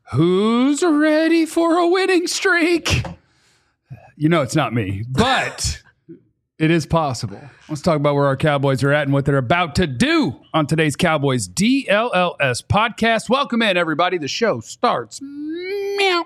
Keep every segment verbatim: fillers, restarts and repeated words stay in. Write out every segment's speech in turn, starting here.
Who's ready for a winning streak? You know it's not me, but it is possible. Let's talk about where our Cowboys are at and what they're about to do on today's Cowboys D L L S podcast. Welcome in, everybody. The show starts. Meow.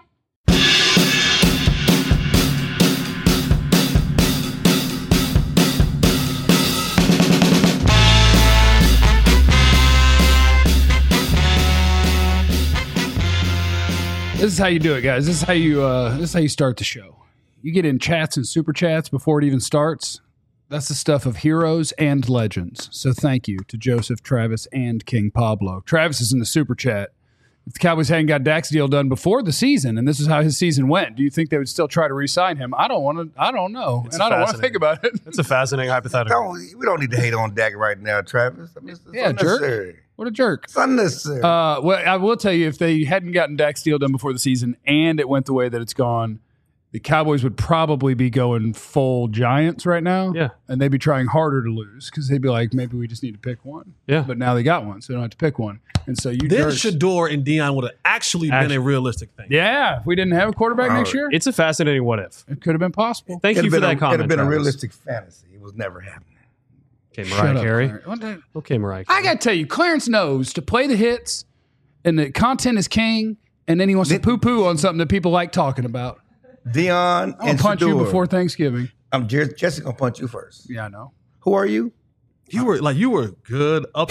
This is how you do it, guys. This is how you uh, this is how you start the show. You get in chats and super chats before it even starts. That's the stuff of heroes and legends. So thank you to Joseph, Travis, and King Pablo. Travis is in the super chat. If the Cowboys hadn't got Dak's deal done before the season, and this is how his season went, do you think they would still try to re-sign him? I don't want to. I don't know, It's and I don't want to think about it. It's a fascinating hypothetical. Don't, we don't need to hate on Dak right now, Travis. I mean, it's, it's Yeah, unnecessary. jerk. What a jerk. It's unnecessary. Uh, well, I will tell you, if they hadn't gotten Dak's deal done before the season and it went the way that it's gone, the Cowboys would probably be going full Giants right now. Yeah. And they'd be trying harder to lose because they'd be like, maybe we just need to pick one. Yeah. But now they got one, so they don't have to pick one. And so you Then jerks- Shador and Dion would have actually been Actually. a realistic thing. Yeah. If we didn't have a quarterback Oh, next year, It's a fascinating what if. it could have been possible. Thank It'd you for been that a, comment. It'd have been a Travis. realistic fantasy. It was never happening. Okay, Shut Mariah up, Carey. Clarence. What the- Okay, Mariah Carey. I got to tell you, Clarence knows to play the hits and the content is king, and then he wants to Did- poo-poo on something that people like talking about. Dion I'll and punch Shador. you before Thanksgiving. I'm Jer- Jesse gonna punch you first. Yeah, I know. Who are you? You were like you were good up.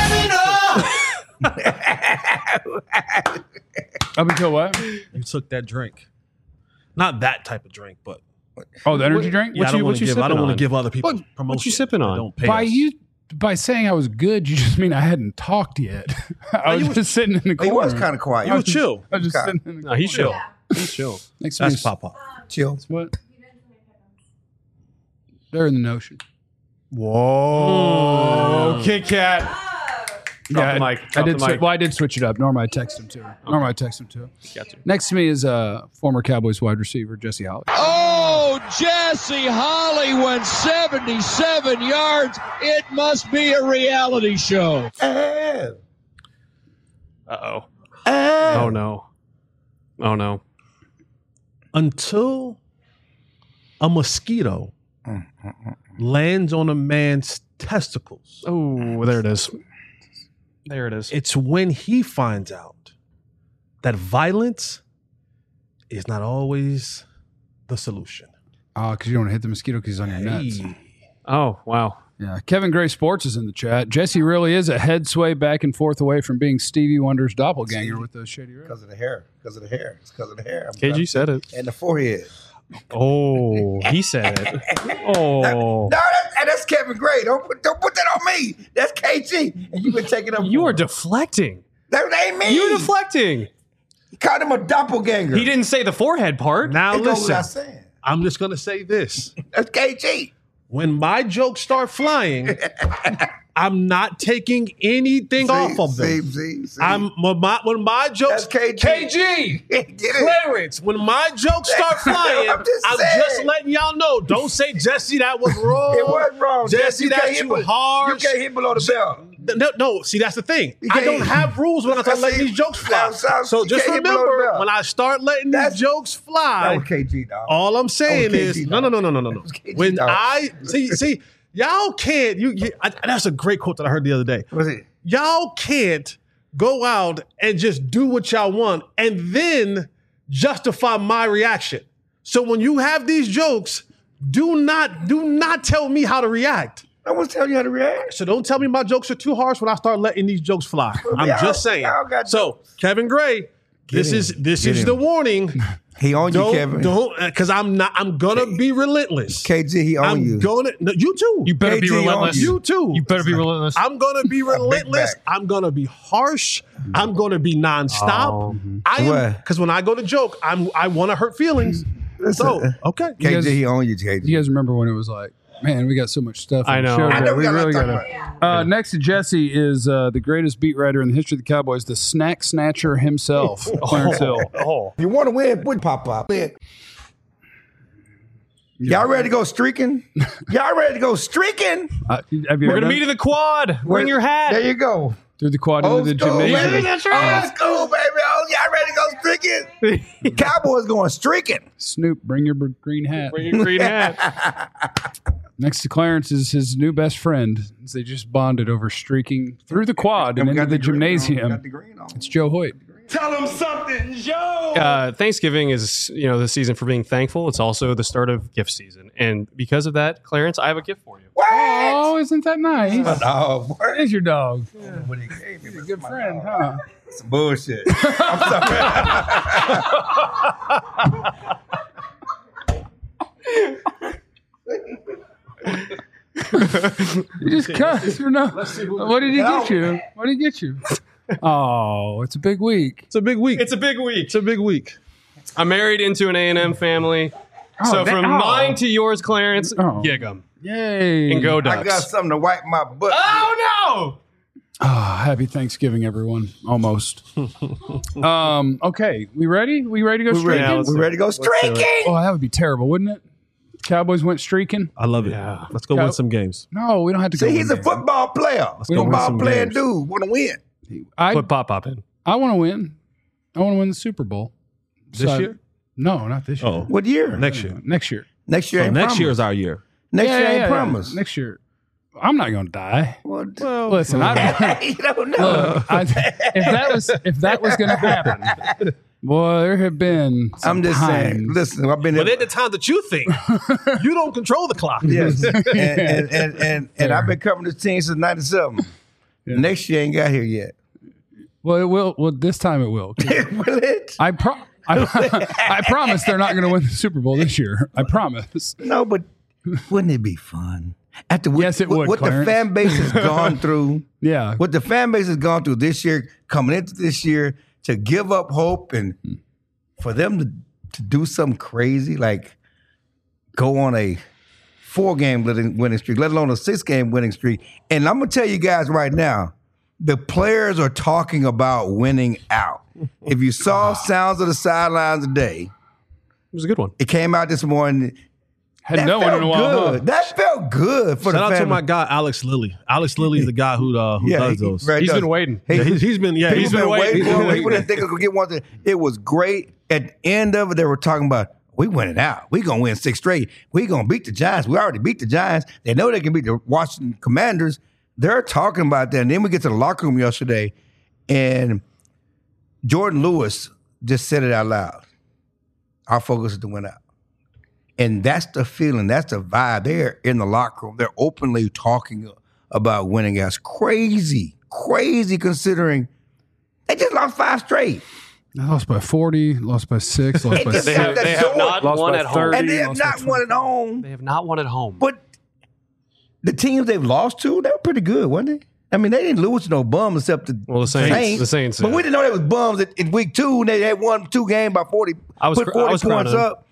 Up until what? You took that drink, not that type of drink, but Oh, the energy drink? yeah, What I don't you- want what to you give. I don't sipping want on? to give other people What- what promotion. you sipping on? They Don't pay By us. you, by saying I was good, you just mean I hadn't talked yet. I was you was- just sitting in the He corner. was kind of quiet. You were chill. I was just Okay. sitting in the No, he's corner. chill. He's chill. Next to me That's is- Papa. chill. What? They're in the notion. Whoa. Kit Kat. Drop the I- mic. I Drop did. the Swi- mic. well, I did switch it up. Norma, I text him too. Norma, I text him too. Got you. Next to me is uh, former Cowboys wide receiver Jesse Holly. Oh, Jesse Holly went seventy-seven yards. It must be a reality show. Ah, Uh-oh. ah. Oh, no. Oh, no. Until a mosquito lands on a man's testicles, Oh, there it is. There it is. it's when he finds out that violence is not always the solution. Oh, because you don't want to hit the mosquito because he's on your nuts. Hey. Oh, wow. Yeah, Kevin Gray Sports is in the chat. Jesse really is a head sway back and forth away from being Stevie Wonder's doppelganger with those shady red. Because of the hair. Because of the hair. It's because of the hair. I'm K G trying- said it. And the forehead. Oh, he said it. Oh. No, that's, and that's Kevin Gray. Don't put, don't put that on me. That's K G. And you've been taking up. You for are him. deflecting. That ain't me. You're deflecting. He called him a doppelganger. He didn't say the forehead part. Now It goes listen, without saying. I'm just gonna say this. That's K G. When my jokes start flying, I'm not taking anything See, off of see, them. see, see. I'm when my, when my jokes That's K G. K G Get it? Clarence, when my jokes start flying, I'm I'm, just just, saying. letting y'all know. Don't say Jesse that was wrong. It was wrong. Jesse, You can't that's hit too be- harsh. You can't hit below the belt. No, no, see that's the thing. You I can't- don't have rules when I start I letting see. these jokes fly. That's- that's- So you just can't hit below the remember belt. when I start letting That's- these jokes That fly. was K G, dog. All I'm saying That was K G, is no, no, dog. no, no, no, no, no. was K G, When dog. I see, see, y'all can't. You, you I, that's a great quote that I heard the other day. What's it? Y'all can't go out and just do what y'all want and then justify my reaction. So when you have these jokes, do not do not tell me how to react. No one's telling you how to react. So don't tell me my jokes are too harsh when I start letting these jokes fly. I'm y'all- just saying. y'all got So jokes. Kevin Gray, this him. is this Get is him. the warning. He on you, Don't Kevin. don't because I'm not. I'm gonna be relentless. K G, he on I'm you. gonna. No, you too. You better K G be on relentless. You too. You better be relentless. I'm gonna be relentless. back. I'm gonna be harsh. I'm gonna be nonstop. Oh. I am What? because when I go to joke, I'm I want to hurt feelings. So okay, K G, guys- he on you, K G. You guys remember when it was like, man, we got so much stuff. I on the know. show I today. know we we got a lot really to got talk to. Uh, next to Jesse is uh, the greatest beat writer in the history of the Cowboys, the snack snatcher himself, Clarence Hill. Oh. If you want to win, put pop up. Y'all ready to go streaking? Y'all ready to go streaking? Uh, have you We're ever gonna done- meet in the quad. Bring Wait, your hat. There you go. through the quad into Old the school, gymnasium? baby. Old school, baby. Oh, y'all ready to go streaking. Cowboys going streaking. Snoop, bring your b- green hat. Bring your green hat. Next to Clarence is his new best friend. They just bonded over streaking through the quad and We into got the, green on. We gymnasium. got the green on. It's Joe Hoyt. Tell them something, Joe. Uh, Thanksgiving is, you know, the season for being thankful. It's also the start of gift season, and because of that, Clarence, I have a gift for you. What? Oh, isn't that nice? Oh, boy. There's your dog. What he gave me, He's a but good my friend, dog. huh? Some bullshit. I'm sorry. You just cussed for no. What did he get you? What did he get you? Oh, it's a big week. It's a big week. It's a big week. It's a big week. I'm married into an A and M family. so that- from oh. mine to yours, Clarence, Oh. gig 'em. Yay. And go I Ducks. got something to wipe my butt. Oh, Oh, happy Thanksgiving, everyone. Almost. um, okay, we ready? We ready to go We ready, streaking? let's we do ready to go streaking? Oh, that would be terrible, wouldn't it? Cowboys went streaking. I love it. Yeah. Let's go Yeah. win some games. No, we don't have to go. See, he's a win. football player. go win Football some player games. dude. Want to win. I no. Put Pop Pop in. I want to win. I want to win the Super Bowl This So- year? No, not this year. Oh, What year? next year. Next year. Next year Oh, ain't next promised. year is our year. Next Yeah, year yeah, ain't yeah, promised. Next year. I'm not going to die. Well, Well, Listen, I don't. you don't know. Look, I, if that was if that was going to happen, boy, there have been. Some I'm just saying. times- Listen, I've been But there. at the time that you think, you don't control the clock. Yes, and and and, and, and I've been covering this team since ninety-seven. Yeah. Next year ain't got here yet. Well, it will. Well, this time it will. 'Cause Will it? I pro. I, I promise they're not going to win the Super Bowl this year. I promise. No, but wouldn't it be fun? After what, Yes, it what, would, what the Clarence. fan base has gone through, Yeah. what the fan base has gone through this year, coming into this year, to give up hope and for them to, to do something crazy like go on a four-game winning winning streak, let alone a six-game winning streak. And I'm gonna tell you guys right now, the players are talking about winning out. If you saw Sounds of the Sidelines today, It was a good one. it came out this morning. Had That no one felt in a while. good. huh? That felt good for Shout out the to family. my guy Alex Lilly. Alex Lilly is the guy who uh, who Yeah, does he- those. right, He's does. been waiting. He- Yeah, he's, he's been yeah People he's been, been waiting. waiting. for it. People didn't think it could get one. It was great. At the end of it, they were talking about we winning out. We gonna win six straight. We gonna beat the Giants. We already beat the Giants. They know they can beat the Washington Commanders. They're talking about that. And then we get to the locker room yesterday, and Jordan Lewis just said it out loud. Our focus is to win out. And that's the feeling. That's the vibe. They're in the locker room. They're openly talking about winning. That's crazy, crazy considering they just lost five straight. They lost by forty. Lost by six. Lost It by just They six. got have, that they have sword. not Lost won by at home. thirty. And they have lost by not won at home. They have not won at home. But the teams they've lost to, they were pretty good, wasn't they? I mean, they didn't lose to no bums except the Well, the Saints- the Saints, But yeah. we didn't know they was bums in, in week two. And they had won two games by forty. I was put cr- forty I was points crowning them. up.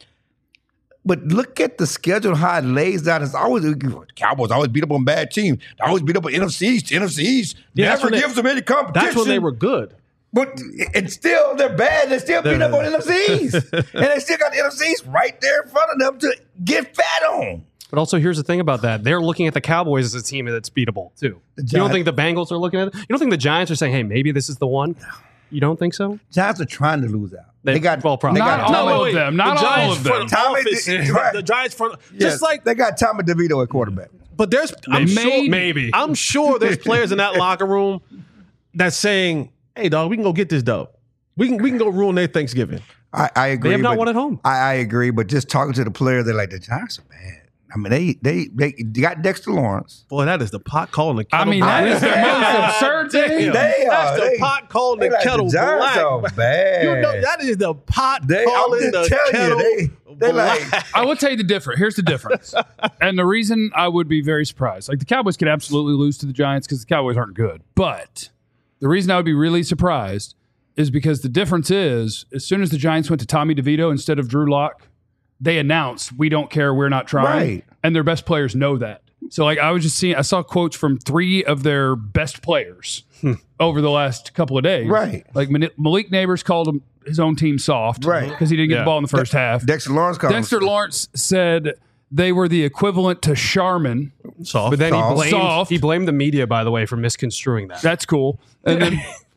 But look at the schedule, how it lays out. It's always Cowboys always beat up on bad teams. They always beat up on N F C East. N F C East Yeah, that's never when they- gives them any competition. That's when they were good. But and still, they're bad. They still beat up on N F C East. And they still got the N F C East right there in front of them to get fat on. But also, here's the thing about that: they're looking at the Cowboys as a team that's beatable too. You don't Giants- think the Bengals are looking at it? You don't think the Giants are saying, "Hey, maybe this is the one"? You don't think so? Giants are trying to lose out. They- They, got well, probably. They got Not all Tommy, of them. Not the all Giants of them. front Tommy office, did- right. the Giants front, yes, just like. they got Tommy DeVito at quarterback. But there's, I'm Maybe. sure, Maybe. I'm sure there's players in that locker room that's saying, "Hey, dog, we can go get this dub. We can, we can go ruin their Thanksgiving." I, I agree. They have not but- won at home. I, I agree, but just talking to the player, they're like the Giants are bad. I mean, they they they got Dexter Lawrence. Boy, that is the pot calling the I kettle mean, black. that is the Yeah. most absurd thing. They That's are. the They- pot calling They the like kettle the Giants black. are bad. You know, that is the pot They- I'm calling just the telling kettle you, they- they like- black. I will tell you the difference. Here's the difference. And the reason I would be very surprised. Like the Cowboys could absolutely lose to the Giants because the Cowboys aren't good. But the reason I would be really surprised is because the difference is as soon as the Giants went to Tommy DeVito instead of Drew Lock, they announced we don't care, we're not trying. Right. And their best players know that. So like I was just seeing I saw quotes from three of their best players over the last couple of days. Right. Like Mani- Malik Neighbors called him his own team soft. Right. Because he didn't get Yeah. the ball in the first half. Dexter Lawrence. called him- Dexter Lawrence said they were the equivalent to Charmin. Soft. But then he Soft. blamed Soft. he blamed the media, by the way, for misconstruing that. That's cool. And then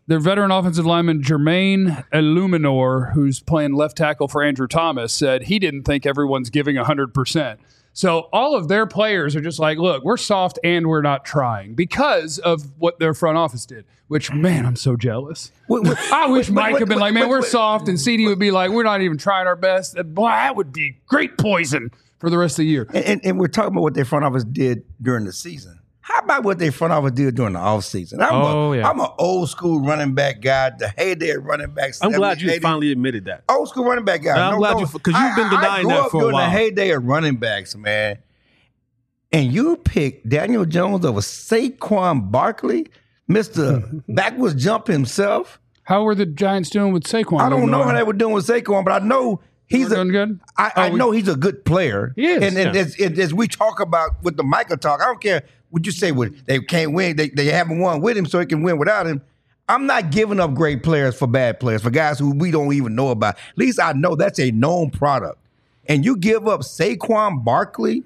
their veteran offensive lineman Jermaine Illuminor, who's playing left tackle for Andrew Thomas, said he didn't think everyone's giving one hundred percent. So all of their players are just like, look, we're soft and we're not trying because of what their front office did, which, man, I'm so jealous. Wait, wait, I wish wait, Mike wait, had been wait, like, man, wait, we're wait. soft, and C D would be like, we're not even trying our best. Boy, that would be great poison for the rest of the year. And, and, and we're talking about what their front office did during the season. How about what their front office did during the offseason? I'm Oh, a, yeah. I'm an old school running back guy, the heyday of running backs. I'm glad seventies, you eighties. finally admitted that. Old school running back guy. Yeah, I'm glad you- 'cause you've been I- I denying grew that up for a during while. the heyday of running backs, man. And you pick Daniel Jones over Saquon Barkley, Mister backwards jump himself. How were the Giants doing with Saquon? I don't know how they were doing with Saquon, but I know he's We're a doing good? I, I Oh, we- know he's a good player. He is, And, and yeah. as, and as we talk about with the Michael talk, I don't care what you say. With they can't win, they they haven't won with him, so he can win without him. I'm not giving up great players for bad players, for guys who we don't even know about. At least I know that's a known product. And you give up Saquon Barkley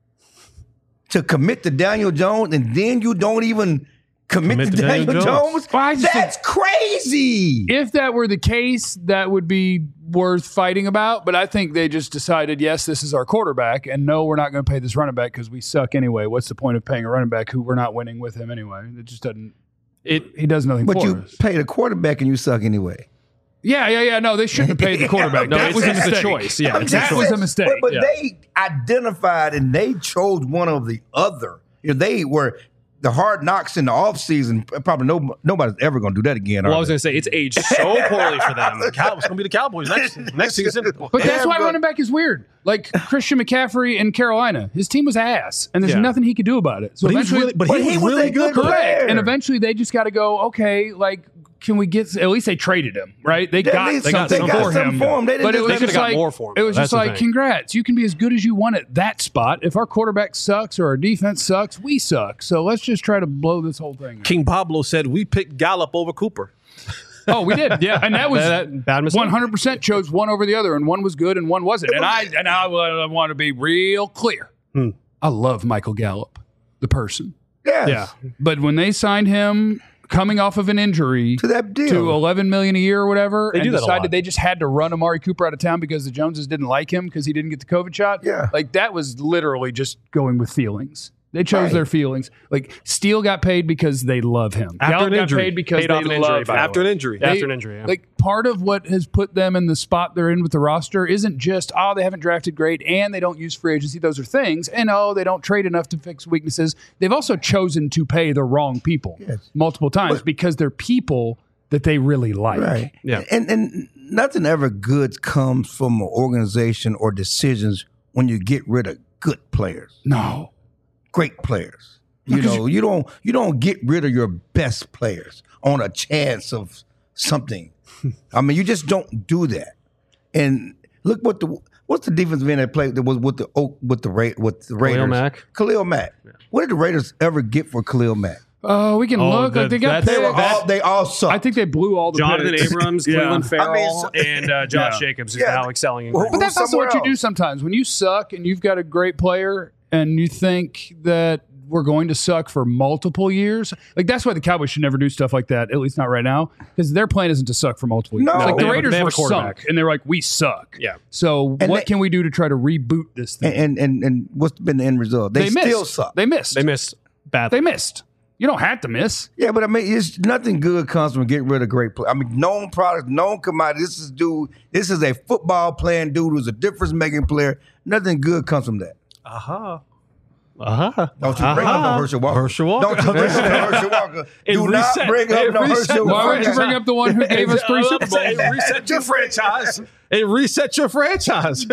to commit to Daniel Jones, and then you don't even commit, Commit to, to Daniel, Daniel Jones. Jones. Well, I just That's crazy. If that were the case, that would be worth fighting about. But I think they just decided, yes, this is our quarterback, and no, we're not going to pay this running back because we suck anyway. What's the point of paying a running back who we're not winning with him anyway? It just doesn't. It He does nothing But for you us. pay the quarterback and you suck anyway. Yeah, yeah, yeah. No, they shouldn't have paid the quarterback. No, that it's- was a it's the mistake. choice. Yeah, I'm it's that just was saying, a mistake. But, but Yeah. they identified and they chose one of the other. You know, they were the hard knocks in the offseason. Probably no, nobody's ever going to do that again. well, are I was they? going to say it's aged so poorly for them. Cow- it's going to be the Cowboys next next season. But that's Yeah, why but- running back is weird. Like Christian McCaffrey in Carolina, his team was ass, and there's Yeah. nothing he could do about it. So But he was eventually, really, but But he, he was was really a good. good though. player. correct. And eventually, they just got to go. Okay, like. Can we get? At least they traded him, right? They They got least they got something something for something him. for him. They didn't but it just- was They just could've got like more for him, it was though. just That's the like, thing. congrats, you can be as good as you want at that spot. If our quarterback sucks or our defense sucks, we suck. So let's just try to blow this whole thing. King Pablo said we picked Gallup over Cooper. Oh, we did, yeah, and that was That- that bad mistake. one hundred percent chose one over the other, and one was good and one wasn't. And I and I, I want to be real clear. Hmm. I love Michael Gallup, the person, Yes. Yeah. but when they signed him coming off of an injury To that deal. to eleven million a year or whatever, They and do that a decided lot. they just had to run Amari Cooper out of town because the Joneses didn't like him because he didn't get the COVID shot. Yeah. Like that was literally just going with feelings. They chose Right. their feelings. Like Steele got paid because they love him. After Gallup an got injury. paid because Paid they off an injury, love by him. the After way. an injury. After They- an injury, yeah. Like part of what has put them in the spot they're in with the roster isn't just, oh, they haven't drafted great and they don't use free agency. Those are things. And oh, they don't trade enough to fix weaknesses. They've also chosen to pay the wrong people Yes. multiple times because they're people that they really like. Right. Yeah. And and nothing ever good comes from an organization or decisions when you get rid of good players, No. great players. You know, you don't you don't get rid of your best players on a chance of something. I mean, you just don't do that. And look what the what's the defensive end that played that was with the Oak with the Ra- with the Raiders. Mack. Khalil Mack. What did the Raiders ever get for Khalil Mack? Oh, we can Oh, look. the- like they got that's- They were picks. all they all sucked. I think they blew all the Jonathan picks. Abrams, Yeah. Cleveland Farrell, I mean, so- and uh, Josh Yeah. Jacobs is Yeah. now excelling in Well, Green But Bay. that's also somewhere what you do else. sometimes. When you suck and you've got a great player and you think that we're going to suck for multiple years, like that's why the Cowboys should never do stuff like that, at least not right now, because their plan isn't to suck for multiple years. No. Like They the have a- Raiders they have were a quarterback. sunk and they're like, we suck. Yeah. So And what they- can we do to try to reboot this thing? and, and and and what's been the end result? They, missed. still suck. They missed. They missed badly. They missed. You don't have to miss. Yeah, but I mean, it's nothing good comes from getting rid of great players. I mean, known products, known commodity. This is dude. This is a football playing dude who's a difference making player. Nothing good comes from that. Aha. Uh-huh. Don't you bring up no Herschel Walker. Herschel Walker. Don't you bring up no Herschel Walker. It Do not reset- bring up it no reset- Herschel Why Walker. would you bring up the one who gave us three Super Bowls? It reset your franchise. It reset your franchise.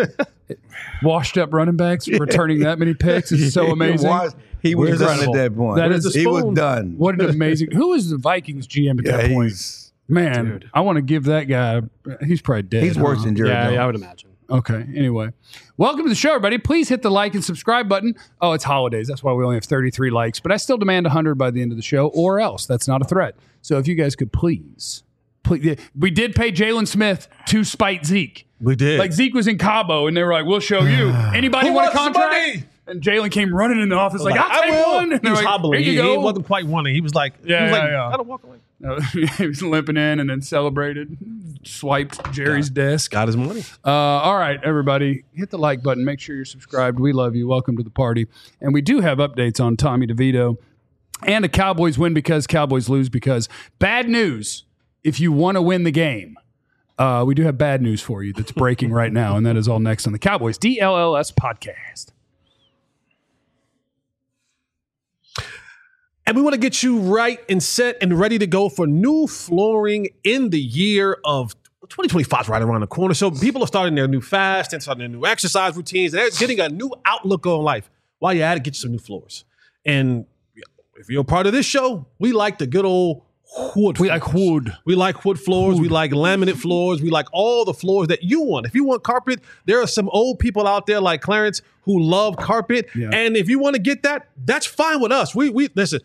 Washed up running backs returning that many picks is so amazing. He was, he was Where's done the- at that point. That is- he was spoon? done. What an amazing. Who is the Vikings G M at Yeah, that point? he's, Man, Dude. I want to give that guy. He's probably dead. he's worse huh? than Jerry Yeah, Jones. yeah, I would imagine. Okay. Anyway, welcome to the show, everybody. Please hit the like and subscribe button. Oh, it's holidays. That's why we only have thirty-three likes, but I still demand one hundred by the end of the show, or else. That's not a threat. So if you guys could please, please, we did pay Jalen Smith to spite Zeke. We did. Like Zeke was in Cabo, and they were like, "We'll show you." Anybody Who want a wants the contract? money? And Jalen came running in the office like, Like, "I'll I take will. one." And He they're was like, hobbling. "Here He, you he go." wasn't quite wanting. He was like, Yeah, he was yeah, like, yeah. I don't walk away. Uh, he was limping in and then celebrated, swiped Jerry's desk. Got his money. Uh, all right, everybody, hit the like button. Make sure you're subscribed. We love you. Welcome to the party. And we do have updates on Tommy DeVito and the Cowboys win because Cowboys lose because. Bad news if you want to win the game. Uh, we do have bad news for you that's breaking right now, and that is all next on the Cowboys D L L S podcast. And we want to get you right and set and ready to go for new flooring in the year of twenty twenty-five is right around the corner. So people are starting their new fast and starting their new exercise routines. And they're getting a new outlook on life. While you're at it, get you some new floors. And if you're a part of this show, we like the good old wood. We like wood. We like wood floors. Wood. We like laminate floors. We like all the floors that you want. If you want carpet, there are some old people out there like Clarence who love carpet. Yeah. And if you want to get that, that's fine with us. We we listen.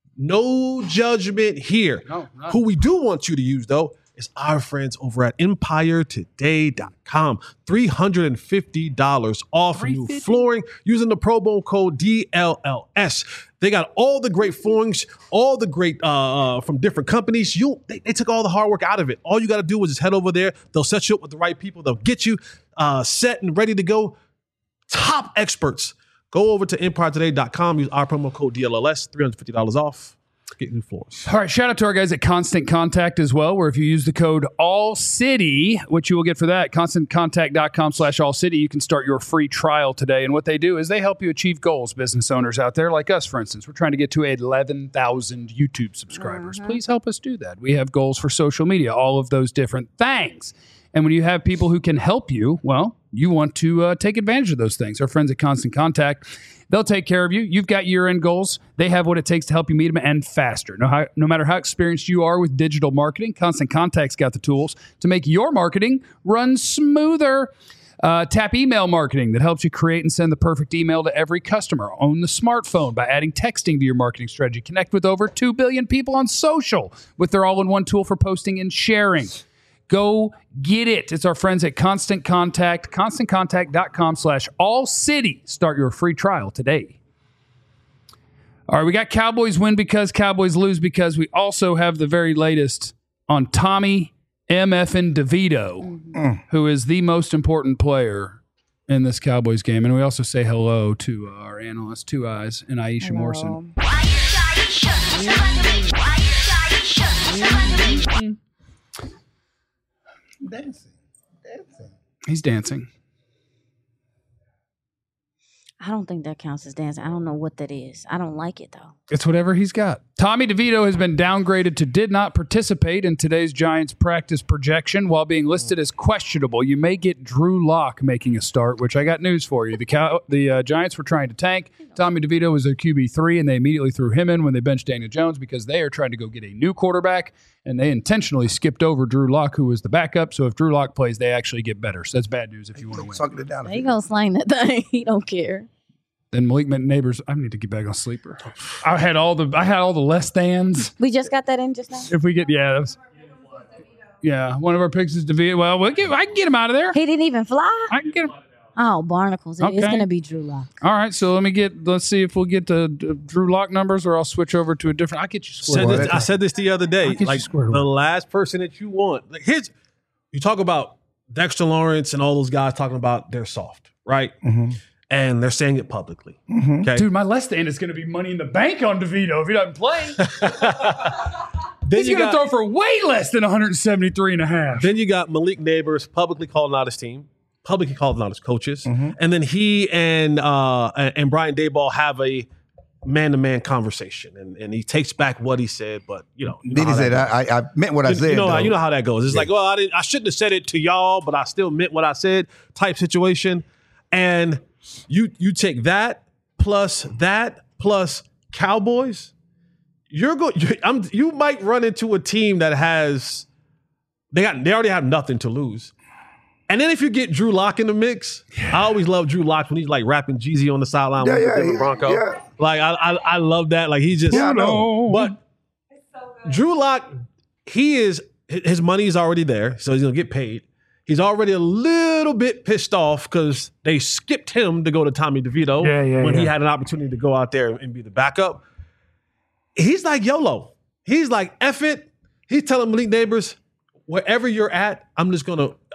No judgment here. No, Who we do want you to use, though, is our friends over at empire today dot com. three hundred fifty dollars off new flooring using the promo code D L L S. They got all the great floorings, all the great uh, uh, from different companies. You, they, they took all the hard work out of it. All you got to do is just head over there. They'll set you up with the right people. They'll get you uh, set and ready to go. Top experts. Go over to empire today dot com. Use our promo code D L L S. three hundred fifty dollars off. Get new floors. All right. Shout out to our guys at Constant Contact as well, where if you use the code ALLCITY, which you will get for that, constant contact dot com slash all city, you can start your free trial today. And what they do is they help you achieve goals, business owners out there like us, for instance. We're trying to get to eleven thousand YouTube subscribers. Mm-hmm. Please help us do that. We have goals for social media, all of those different things. And when you have people who can help you, well, you want to uh, take advantage of those things. Our friends at Constant Contact, they'll take care of you. You've got year-end goals. They have what it takes to help you meet them and faster. No, how, no matter how experienced you are with digital marketing, Constant Contact's got the tools to make your marketing run smoother. Uh, tap email marketing that helps you create and send the perfect email to every customer. Own the smartphone by adding texting to your marketing strategy. Connect with over two billion people on social with their all-in-one tool for posting and sharing. Go get it. It's our friends at Constant Contact, constant contact dot com slash all city. Start your free trial today. All right, we got Cowboys win because Cowboys lose because we also have the very latest on Tommy M F and DeVito, mm-hmm. who is the most important player in this Cowboys game. And we also say hello to uh, our analyst, Two Eyes, and Aisha hello. Morrison. Mm-hmm. Dancing. Dancing. He's dancing. I don't think that counts as dancing. I don't know what that is. I don't like it, though. It's whatever he's got. Tommy DeVito has been downgraded to did not participate in today's Giants practice projection while being listed as questionable. You may get Drew Lock making a start, which I got news for you. The Cow- the uh, Giants were trying to tank. Tommy DeVito was their Q B three, and they immediately threw him in when they benched Daniel Jones because they are trying to go get a new quarterback, and they intentionally skipped over Drew Lock, who was the backup. So if Drew Lock plays, they actually get better. So that's bad news if you want to win. Sucking it down. He gonna slang that thing. He don't care. Then Malik Neighbors, I need to get back on sleeper. I had all the I had all the less thans. We just got that in just now. If we get yeah, that was, yeah, one of our picks is DeVito. Well, we'll get, I can get him out of there. He didn't even fly. I can get him. Oh, barnacles! It okay. is going to be Drew Lock. All right, so let me get. Let's see if we'll get the, the Drew Lock numbers, or I'll switch over to a different. I'll get you squared away. I said this the other day. Like the last person that you want. Like here's you talk about Dexter Lawrence and all those guys talking about they're soft, right? Mm-hmm. And they're saying it publicly. Mm-hmm. Okay? Dude, my less than is going to be money in the bank on DeVito if he doesn't play. He's going to throw for way less than one seventy-three and a half. Then you got Malik Neighbors publicly calling out his team, publicly calling out his coaches. Mm-hmm. And then he and uh, and Brian Daboll have a man-to-man conversation. And, and he takes back what he said, but, you know. You know then he said, I, I meant what I you, said. You know, you know how that goes. It's yeah. like, well, I, didn't, I shouldn't have said it to y'all, but I still meant what I said type situation. And You you take that plus that plus Cowboys, you're going. You, I'm you might run into a team that has they got they already have nothing to lose, and then if you get Drew Lock in the mix, yeah. I always love Drew Lock when he's like rapping Jeezy on the sideline yeah, with yeah, the yeah, Bronco. Yeah. Like I, I I love that. Like he just yeah, I know. But Drew Lock, he is his money is already there, so he's gonna get paid. He's already a little bit pissed off because they skipped him to go to Tommy DeVito yeah, yeah, when yeah. he had an opportunity to go out there and be the backup. He's like YOLO. He's like, F it. He's telling Malik Neighbors, wherever you're at, I'm just going to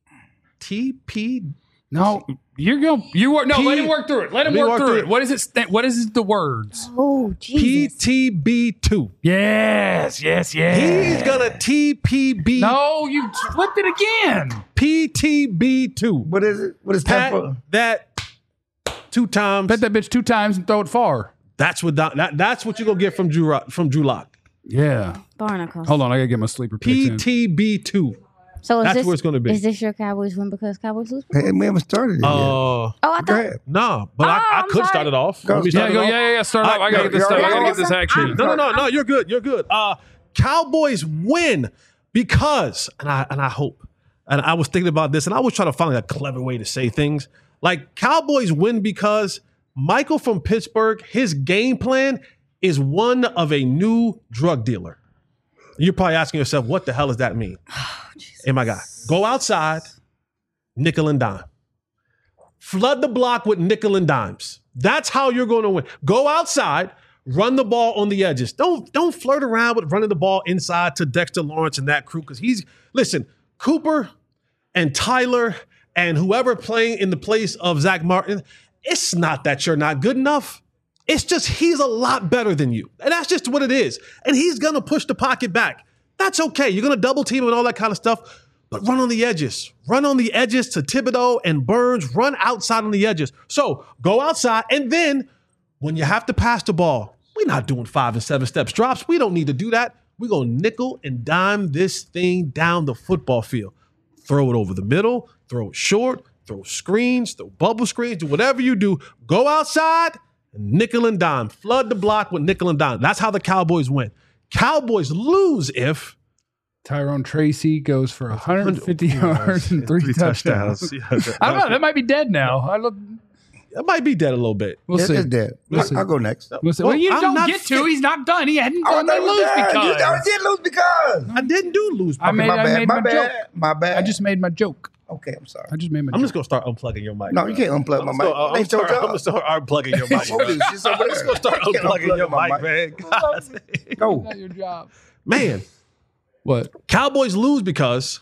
T P. No, you're going. You work. No, P- let him work through it. Let him Let me work, work through through it. it. What is it? st- What is it, the words? Oh, P Jesus. T B two. Yes, yes, yes. He's going to T P B. No, you flipped it again. P T B two. What is it? What is Pat that for? that two times. Bet that bitch two times and throw it far. That's what Don, that, that's what you're going to get from Drew, Rock- from Drew Lock. Yeah. Barnacles. Hold on, I gotta get my sleeper picks P in. T B two. So is That's this, where it's gonna be. Is this your Cowboys win because Cowboys lose? Hey, we haven't started it yet. Uh, Oh, I Go thought. ahead. no, but I, Oh, I I'm could sorry. start it off. Go. Want me to Yeah, start go. it off? Yeah, yeah, yeah. Start I- off. I gotta no, get this you're stuff. I already- gotta get this action. No, no, no, no. You're good. You're good. Uh, Cowboys win because, and I and I hope, and I was thinking about this, and I was trying to find like a clever way to say things. Like Cowboys win because Michael from Pittsburgh, his game plan is one of a new drug dealer. You're probably asking yourself, what the hell does that mean? Hey, my guy, go outside, nickel and dime. Flood the block with nickel and dimes. That's how you're going to win. Go outside, run the ball on the edges. Don't don't flirt around with running the ball inside to Dexter Lawrence and that crew because he's listen. Cooper and Tyler and whoever playing in the place of Zach Martin. It's not that you're not good enough. It's just he's a lot better than you, and that's just what it is. And he's gonna push the pocket back. That's okay. You're gonna double team him and all that kind of stuff. But run on the edges. Run on the edges to Thibodeau and Burns. Run outside on the edges. So go outside. And then when you have to pass the ball, we're not doing five and seven steps drops. We don't need to do that. We're going to nickel and dime this thing down the football field. Throw it over the middle. Throw it short. Throw screens. Throw bubble screens. Do whatever you do. Go outside and nickel and dime. Flood the block with nickel and dime. That's how the Cowboys win. Cowboys lose if Tyrone Tracy goes for one hundred fifty yards and three, touchdowns. Yeah, I don't know. That might be dead now. I look. That might be dead a little bit. We'll It's, see. it's dead. We'll I- see. I'll go next. We'll see. Well, Well, you I'm don't not get to. fit- He's not done. He hadn't Oh, done no, the lose you because. already did lose because. I didn't do lose. I made, my I bad. made my my, bad. joke. My bad. I just made my joke. Okay, I'm sorry. I just made my I'm joke. just gonna start unplugging your mic. No, you can't unplug my I'm mic. still- I'm, Ain't your start, I'm job. gonna start unplugging your mic. What bro. is this over I'm just there? gonna start You can't unplugging unplug your my mic, man. God. Go. Not your job. Man, What? Cowboys lose because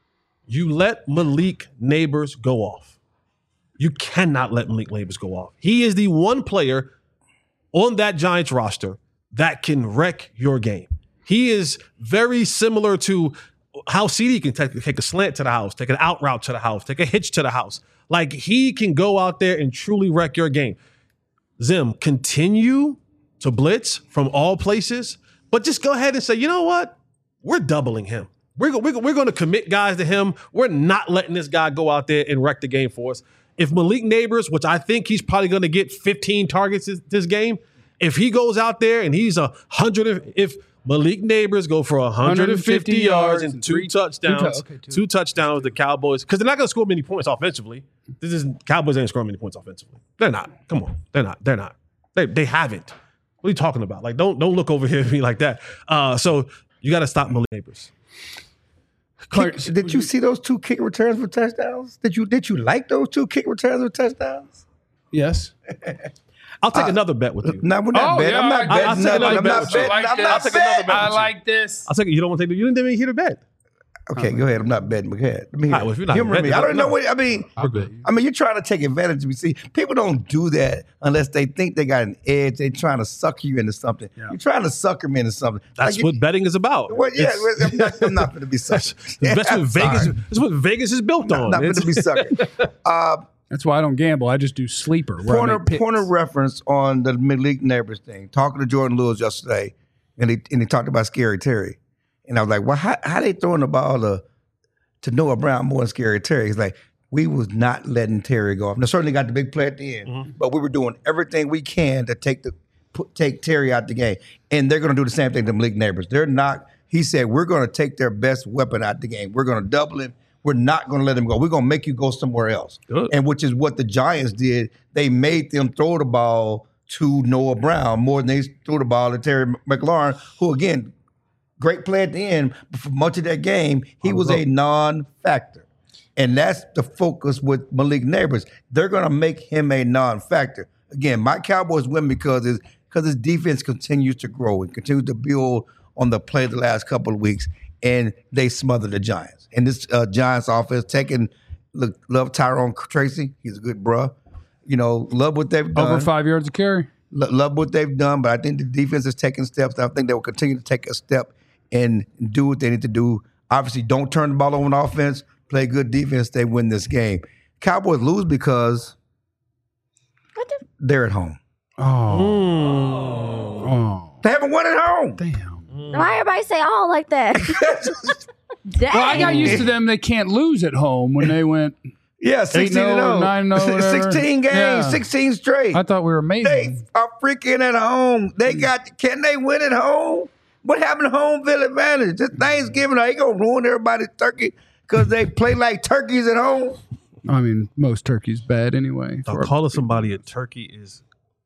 you let Malik Neighbors go off. You cannot let Malik Neighbors go off. He is the one player on that Giants roster that can wreck your game. He is very similar to how C D can take, take a slant to the house, take an out route to the house, take a hitch to the house. Like he can go out there and truly wreck your game. Zim, continue to blitz from all places, but just go ahead and say, you know what? We're doubling him. We're, go- we're, go- we're going to commit guys to him. We're not letting this guy go out there and wreck the game for us. If Malik Neighbors, which I think he's probably going to get fifteen targets this, this game, if he goes out there and he's a hundred, if Malik Neighbors go for one hundred fifty yards and two three- touchdowns, two tou- okay, two. two touchdowns, the Cowboys, because they're not going to score many points offensively. This is Cowboys ain't scoring many points offensively. They're not. Come on, they're not. They're not. They they haven't. What are you talking about? Like, don't don't look over here at me like that. Uh, so you got to stop Malik Neighbors. Clark, Did you see those two kick returns for touchdowns? Did you did you like those two kick returns for touchdowns? Yes. I'll take another bet with you. No, we're not Oh, betting. yeah, I'm not I- I'll betting. take nothing. another I'm bet not with you. betting. I like I'm this. not I'll take another betting. bet. I like this. I'll take it. You don't want to take. You didn't even hear the bet. Okay, go ahead. I'm not betting. But go ahead. Let me hear. All right, well, if you're not Humor betting, me. I don't no. know what I mean. I'll bet you. I mean, you're trying to take advantage of me. See, people don't do that unless they think they got an edge. They're trying to sucker you into something. Yeah. You're trying to sucker me into something. That's Like, what betting is about. Well, yeah, It's- well, I'm not, I'm not going to be that's, suckered. that's what I'm Vegas. sorry. That's what Vegas is built on. I'm not going It's- to be suckered. Uh, That's why I don't gamble. I just do sleeper. Where I point, make of, picks. point of reference on the Malik Neighbors thing. Talking to Jordan Lewis yesterday, and he and he talked about Scary Terry, and I was like, "Well, how how they throwing the ball to to Noah Brown more than Scary Terry?" He's like, "We was not letting Terry go off. Now certainly got the big play at the end, Mm-hmm. but we were doing everything we can to take the put, take Terry out the game, and they're going to do the same thing to Malik Neighbors. They're not." He said, "We're going to take their best weapon out the game. We're going to double him. We're not going to let him go. We're going to make you go somewhere else." Good. And which is what the Giants did. They made them throw the ball to Noah Brown more than they threw the ball to Terry McLaurin, who, again, great play at the end, but for much of that game, he was a non-factor. And that's the focus with Malik Neighbors. They're going to make him a non-factor. Again, my Cowboys win because his, because his defense continues to grow and continues to build on the play the last couple of weeks, and they smothered the Giants. And this uh, Giants offense taking look, love Tyrone Tracy. He's a good bruh. You know, love what they've done. Over five yards of carry. Lo- love what they've done, but I think the defense is taking steps. I think they will continue to take a step and do what they need to do. Obviously, don't turn the ball over on offense. Play good defense. They win this game. Cowboys lose because What the? they're at home. Oh. Oh. They haven't won at home. Damn. Why everybody say all like that? Dang. Well, I got used to them. They can't lose at home when they went. Yeah, sixteen and oh, oh. nine and oh, whatever. sixteen games, Yeah. sixteen straight. I thought we were amazing. They are freaking at home. They got, can they win at home? What happened to home field advantage? This Thanksgiving, are they going to ruin everybody's turkey because they play like turkeys at home? I mean, most turkey's bad anyway. Now, calling somebody a turkey is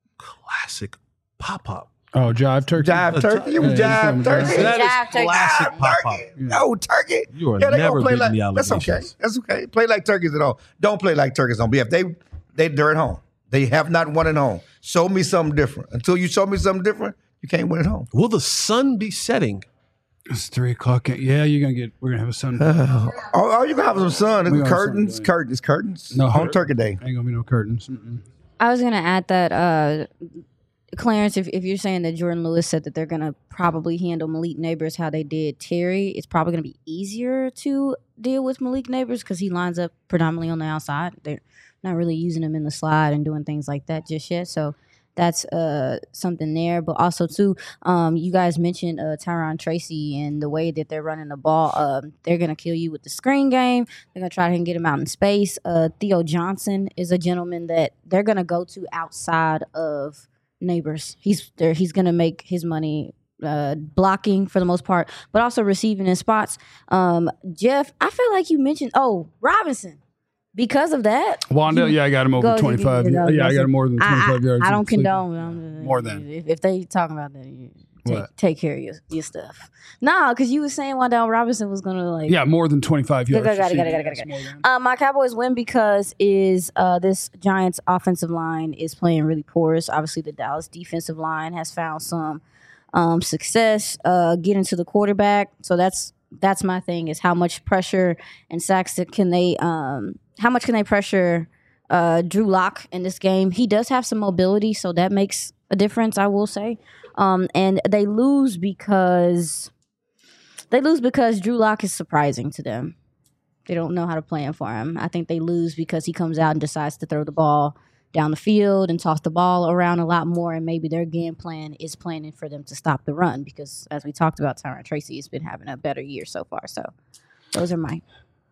classic pop pop. Oh, jive turkey. Jive turkey? You Yeah, jive yeah, turkey? yeah. That Jive is turkey. classic Jive pop pop. turkey? No, turkey. You are they never gonna play beating like, the That's okay. allegations. That's okay. Play like turkeys at home. Don't play like turkeys at home. Yeah, if they, they, they're at home. They have not won at home. Show me something different. Until you show me something different, you can't win at home. Will the sun be setting? It's three o'clock. Yeah, you're gonna get. We're gonna have a sun. Oh, oh, you gonna have some sun. We It's gonna have curtains, sun, curtains, curtains. No, home turkey day. Ain't gonna be no curtains. Mm-mm. I was gonna add that uh, Clarence, if, if you're saying that Jordan Lewis said that they're gonna probably handle Malik Neighbors how they did Terry, it's probably gonna be easier to deal with Malik Neighbors because he lines up predominantly on the outside. They're not really using him in the slide and doing things like that just yet. So that's uh, something there. But also too, um, you guys mentioned uh, Tyron Tracy and the way that they're running the ball. Um, they're gonna kill you with the screen game. They're gonna try to get him out in space. Uh, Theo Johnson is a gentleman that they're gonna go to outside of Neighbors. He's there. He's gonna make his money uh, blocking for the most part, but also receiving in spots. Um, Jeff, I feel like you mentioned oh Robinson. Because of that, Wanda, yeah, I got him over Go- twenty-five. you know, Yeah, I got listen, him more than I, twenty-five I, yards. I of don't sleeping. condone. um, More than. if, if they talking about that, you take, What? take care of your, your stuff. No, because you were saying Wandale Robinson was gonna like Yeah, more than twenty-five yards. Got it, got it, receiving. got it, got it, Yes, got it. more than. Uh, my Cowboys win because is uh, this Giants offensive line is playing really porous. Obviously, the Dallas defensive line has found some um, success uh, getting to the quarterback. So that's that's my thing is how much pressure and sacks that can they um, how much can they pressure uh, Drew Lock in this game? He does have some mobility, so that makes a difference. I will say, um, and they lose because. They lose because Drew Lock is surprising to them. They don't know how to plan for him. I think they lose because he comes out and decides to throw the ball down the field and toss the ball around a lot more, and maybe their game plan is planning for them to stop the run because, as we talked about, Tyron Tracy has been having a better year so far. So those are my...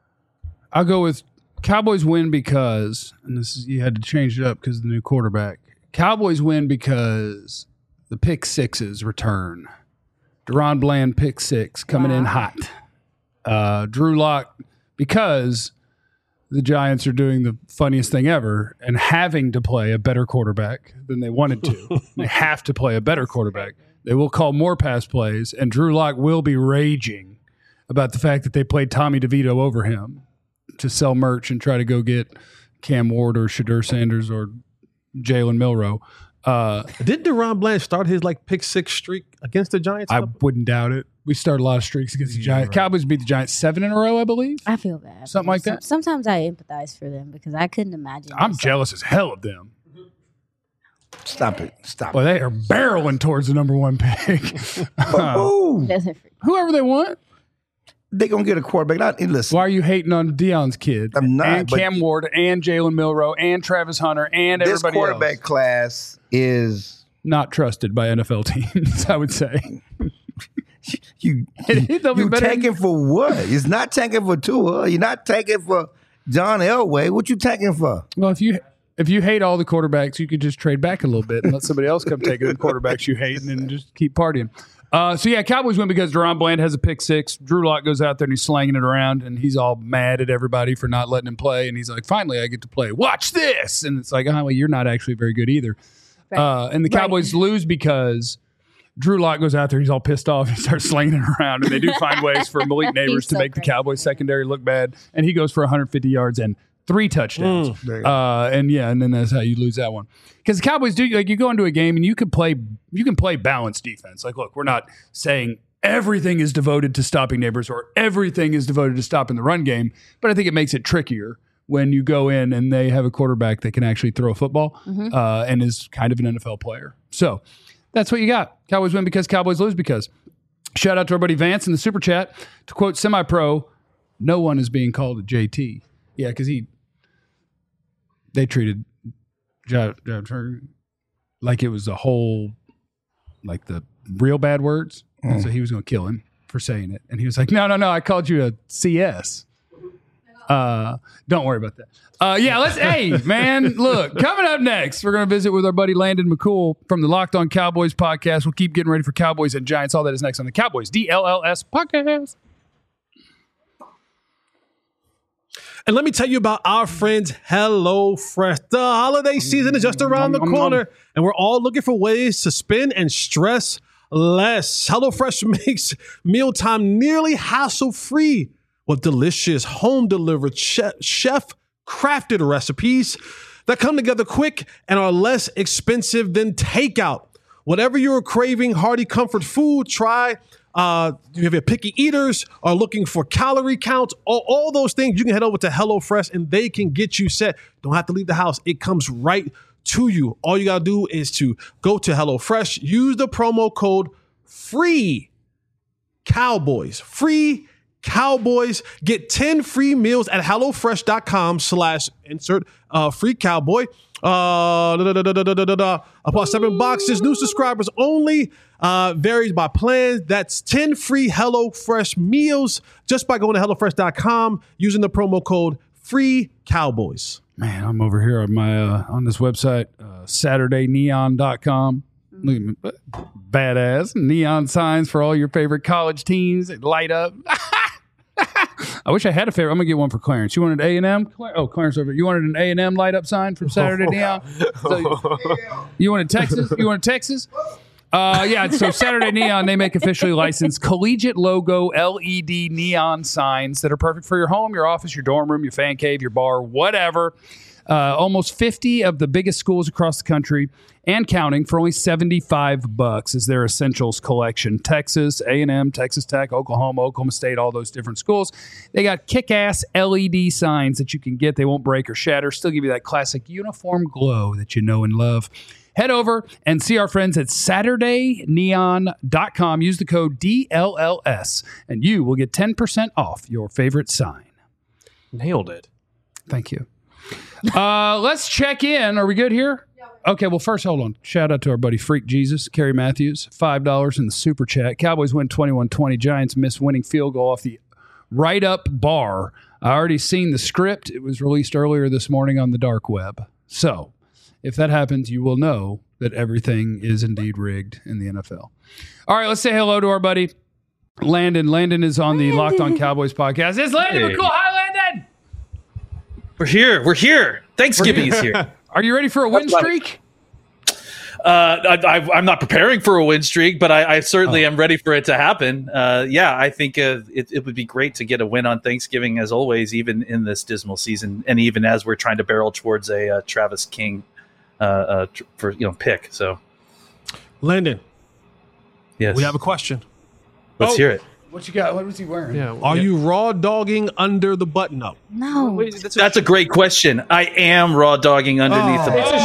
I'll go with Cowboys win because, and this is you had to change it up because of the new quarterback. Cowboys win because the pick sixes return. Deron Bland pick six coming in hot. Uh, Drew Lock because the Giants are doing the funniest thing ever and having to play a better quarterback than they wanted to. They have to play a better quarterback. They will call more pass plays, and Drew Lock will be raging about the fact that they played Tommy DeVito over him to sell merch and try to go get Cam Ward or Shadur Sanders or Jalen Milroe. Uh, Did Deron Bland start his like pick six streak against the Giants? I wouldn't doubt it. We started a lot of streaks against the Giants. right. Cowboys beat the Giants seven in a row, I believe. I feel bad. Something like Some- that? Sometimes I empathize for them because I couldn't imagine. I'm myself. jealous as hell of them. Stop it. Stop Well, it. they are barreling towards the number one pick. Ooh, Doesn't freak- Whoever they want. they going to get a quarterback. Not, and listen, Why are you hating on Deion's kid? I'm not, And but- Cam Ward and Jalen Milroe and Travis Hunter and this everybody quarterback else. class is Not trusted by N F L teams, I would say. you. They'll be you better- taking for what? It's not taking for Tua. You're not taking for John Elway. What you taking for? Well, if you if you hate all the quarterbacks, you could just trade back a little bit and let somebody else come take the quarterbacks you hate and then just keep partying. Uh, so, yeah, Cowboys win because Deron Bland has a pick six. Drew Lock goes out there and he's slanging it around, and he's all mad at everybody for not letting him play. And he's like, finally, I get to play. Watch this. And it's like, oh, well, you're not actually very good either. Right. Uh, and the Cowboys lose because Drew Lock goes out there. He's all pissed off and starts slinging it around. And they do find ways for Malik Neighbors He's to so make the crazy. Cowboys secondary look bad. And he goes for one hundred fifty yards and three touchdowns. There you go. Uh, and yeah, and then that's how you lose that one. Because the Cowboys do like you go into a game and you can play you can play balanced defense. Like, look, we're not saying everything is devoted to stopping Neighbors or everything is devoted to stopping the run game. But I think it makes it trickier when you go in and they have a quarterback that can actually throw a football Mm-hmm. uh, and is kind of an N F L player. So that's what you got. Cowboys win because Cowboys lose because. Shout out to our buddy Vance in the super chat. To quote Semi-Pro, no one is being called a J T. Yeah, because he they treated Joe Turner like it was a whole, like the real bad words. Mm. And so he was going to kill him for saying it. And he was like, no, no, no, I called you a C S. Uh, don't worry about that. Uh, yeah, let's, hey, man, look, coming up next, we're going to visit with our buddy Landon McCool from the Locked On Cowboys podcast. We'll keep getting ready for Cowboys and Giants. All that is next on the Cowboys D L L S podcast. And let me tell you about our friends HelloFresh. The holiday season is just around the corner, and we're all looking for ways to spend and stress less. HelloFresh makes mealtime nearly hassle-free with delicious home-delivered chef-crafted recipes that come together quick and are less expensive than takeout. Whatever you're craving, hearty comfort food, try Uh, if you're picky eaters are looking for calorie counts, all, all those things, you can head over to HelloFresh and they can get you set. Don't have to leave the house. It comes right to you. All you got to do is to go to HelloFresh, use the promo code FREE Cowboys. Free Cowboys. Get ten free meals at HelloFresh.com slash insert uh, free cowboy. Uh, da, da, da, da, da, da, da. Upon seven boxes, new subscribers only. Uh, varies by plans. That's ten free HelloFresh meals just by going to HelloFresh dot com using the promo code Free Cowboys. Man, I'm over here on my uh, on this website, uh, Saturday Neon dot com. Look at me, badass neon signs for all your favorite college teams that light up. I wish I had a favorite. I'm gonna get one for Clarence. You wanted A and M? Oh, Clarence over. You wanted an A and M light up sign from Saturday Neon. So, you wanted Texas? You wanted Texas? Uh, yeah. So Saturday Neon, they make officially licensed collegiate logo L E D neon signs that are perfect for your home, your office, your dorm room, your fan cave, your bar, whatever. Uh, almost fifty of the biggest schools across the country and counting for only seventy-five bucks is their essentials collection. Texas, A and M, Texas Tech, Oklahoma, Oklahoma State, all those different schools. They got kick-ass L E D signs that you can get. They won't break or shatter. Still give you that classic uniform glow that you know and love. Head over and see our friends at Saturday Neon dot com. Use the code D L L S and you will get ten percent off your favorite sign. Nailed it. Thank you. Uh, let's check in. Are we good here? Okay, well, first, hold on. Shout out to our buddy Freak Jesus, Kerry Matthews, five dollars in the super chat. Cowboys win twenty-one twenty. Giants miss winning field goal off the right up bar. I already seen the script. It was released earlier this morning on the dark web. So if that happens, you will know that everything is indeed rigged in the N F L. All right, let's say hello to our buddy Landon. Landon is on the Locked On Cowboys podcast. It's Landon Hey. McCool. Hi, Landon. We're here. We're here. Thanksgiving is here. Are you ready for a win That's right. streak? Uh, I, I, I'm not preparing for a win streak, but I, I certainly Oh. am ready for it to happen. Uh, yeah, I think uh, it, it would be great to get a win on Thanksgiving, as always, even in this dismal season, and even as we're trying to barrel towards a uh, Travis King uh, uh, tr- for you know pick. So, Landon, yes, we have a question. let's Oh. hear it. What you got? What was he wearing? Yeah. Are yeah. you raw dogging under the button up? No. Wait, that's a, That's a great question. I am raw dogging underneath the Oh. button.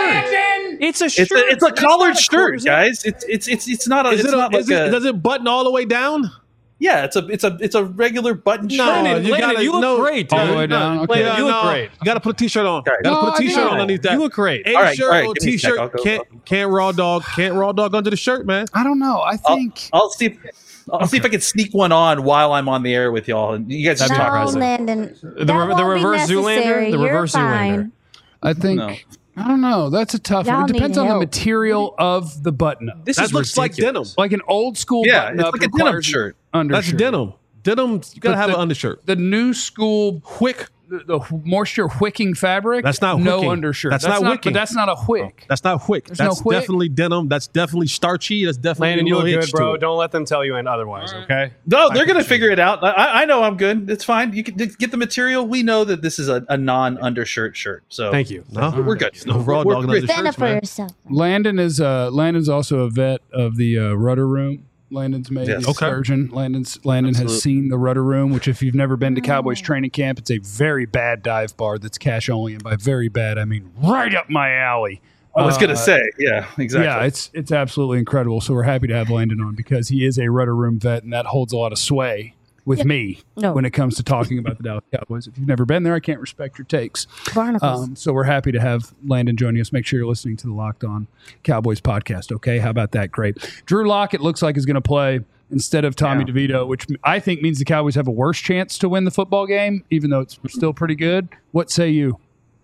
it's a It's shirt. a it's a That's collared not a shirt, coat, is it? guys. It's it's it's it's not a, Is it's it, a, not like is it a does it button all the way down? yeah. It's a it's a it's a regular button No, shirt. Landon, you Landon, gotta- you look no. great, All the dude. way down. Okay. Landon, you look great. You got to put a t-shirt on. Okay. Got to No, put I a t-shirt think- on underneath that. You look great. A All right, shirt all right, or give me a sec. t-shirt I'll go- can't can't raw dog can't raw dog under the shirt, man. I don't know. I I'll, think I'll see. If, I'll see if I can sneak one on while I'm on the air with y'all, and you guys just That'd be talk. No, impressive. Landon. The, That re- the won't be reverse necessary. Zoolander. The You're reverse fine. Zoolander. I think No. I don't know. That's a tough Y'all one. It depends need on the help. material of the button up. This That is looks like ridiculous. denim. Like an old school Yeah, button it's up like a denim requires an shirt. Undershirt. That's denim. Denim. You gotta But have the- an undershirt. The new school wick, the, the moisture wicking fabric. That's not no wicking. undershirt. That's not wicking. But that's not a wick. That's not wick. There's no That's wick? definitely denim. That's definitely starchy. That's definitely Landon, a you look little good, hitch to bro. it. Don't let them tell you and otherwise, okay? No, they're going to figure it out. I, I know I'm good. It's fine. You can get the material. We know that this is a, a non-undershirt shirt. So Thank you. No, we're good. No raw We're- dog we're under good. Stand up shirts, for man. yourself. Landon is uh Landon's also a vet of the uh, Rudder Room. Landon's made Yes. the Okay. excursion. Landon's Landon Absolutely. has seen the Rudder Room, which if you've never been to Cowboys training camp, it's a very bad dive bar that's cash only, and by very bad I mean right up my alley. I was Uh, going to say, yeah, exactly. Yeah, it's it's absolutely incredible. So we're happy to have Landon on because he is a Rudder Room vet, and that holds a lot of sway with Yeah. me No. when it comes to talking about the Dallas Cowboys. If you've never been there, I can't respect your takes. Barnacles. Um, so we're happy to have Landon joining us. Make sure you're listening to the Locked On Cowboys podcast. Okay, how about that? Great. Drew Lock, it looks like, is going to play instead of Tommy DeVito, which I think means the Cowboys have a worse chance to win the football game, even though it's still pretty good. What say you?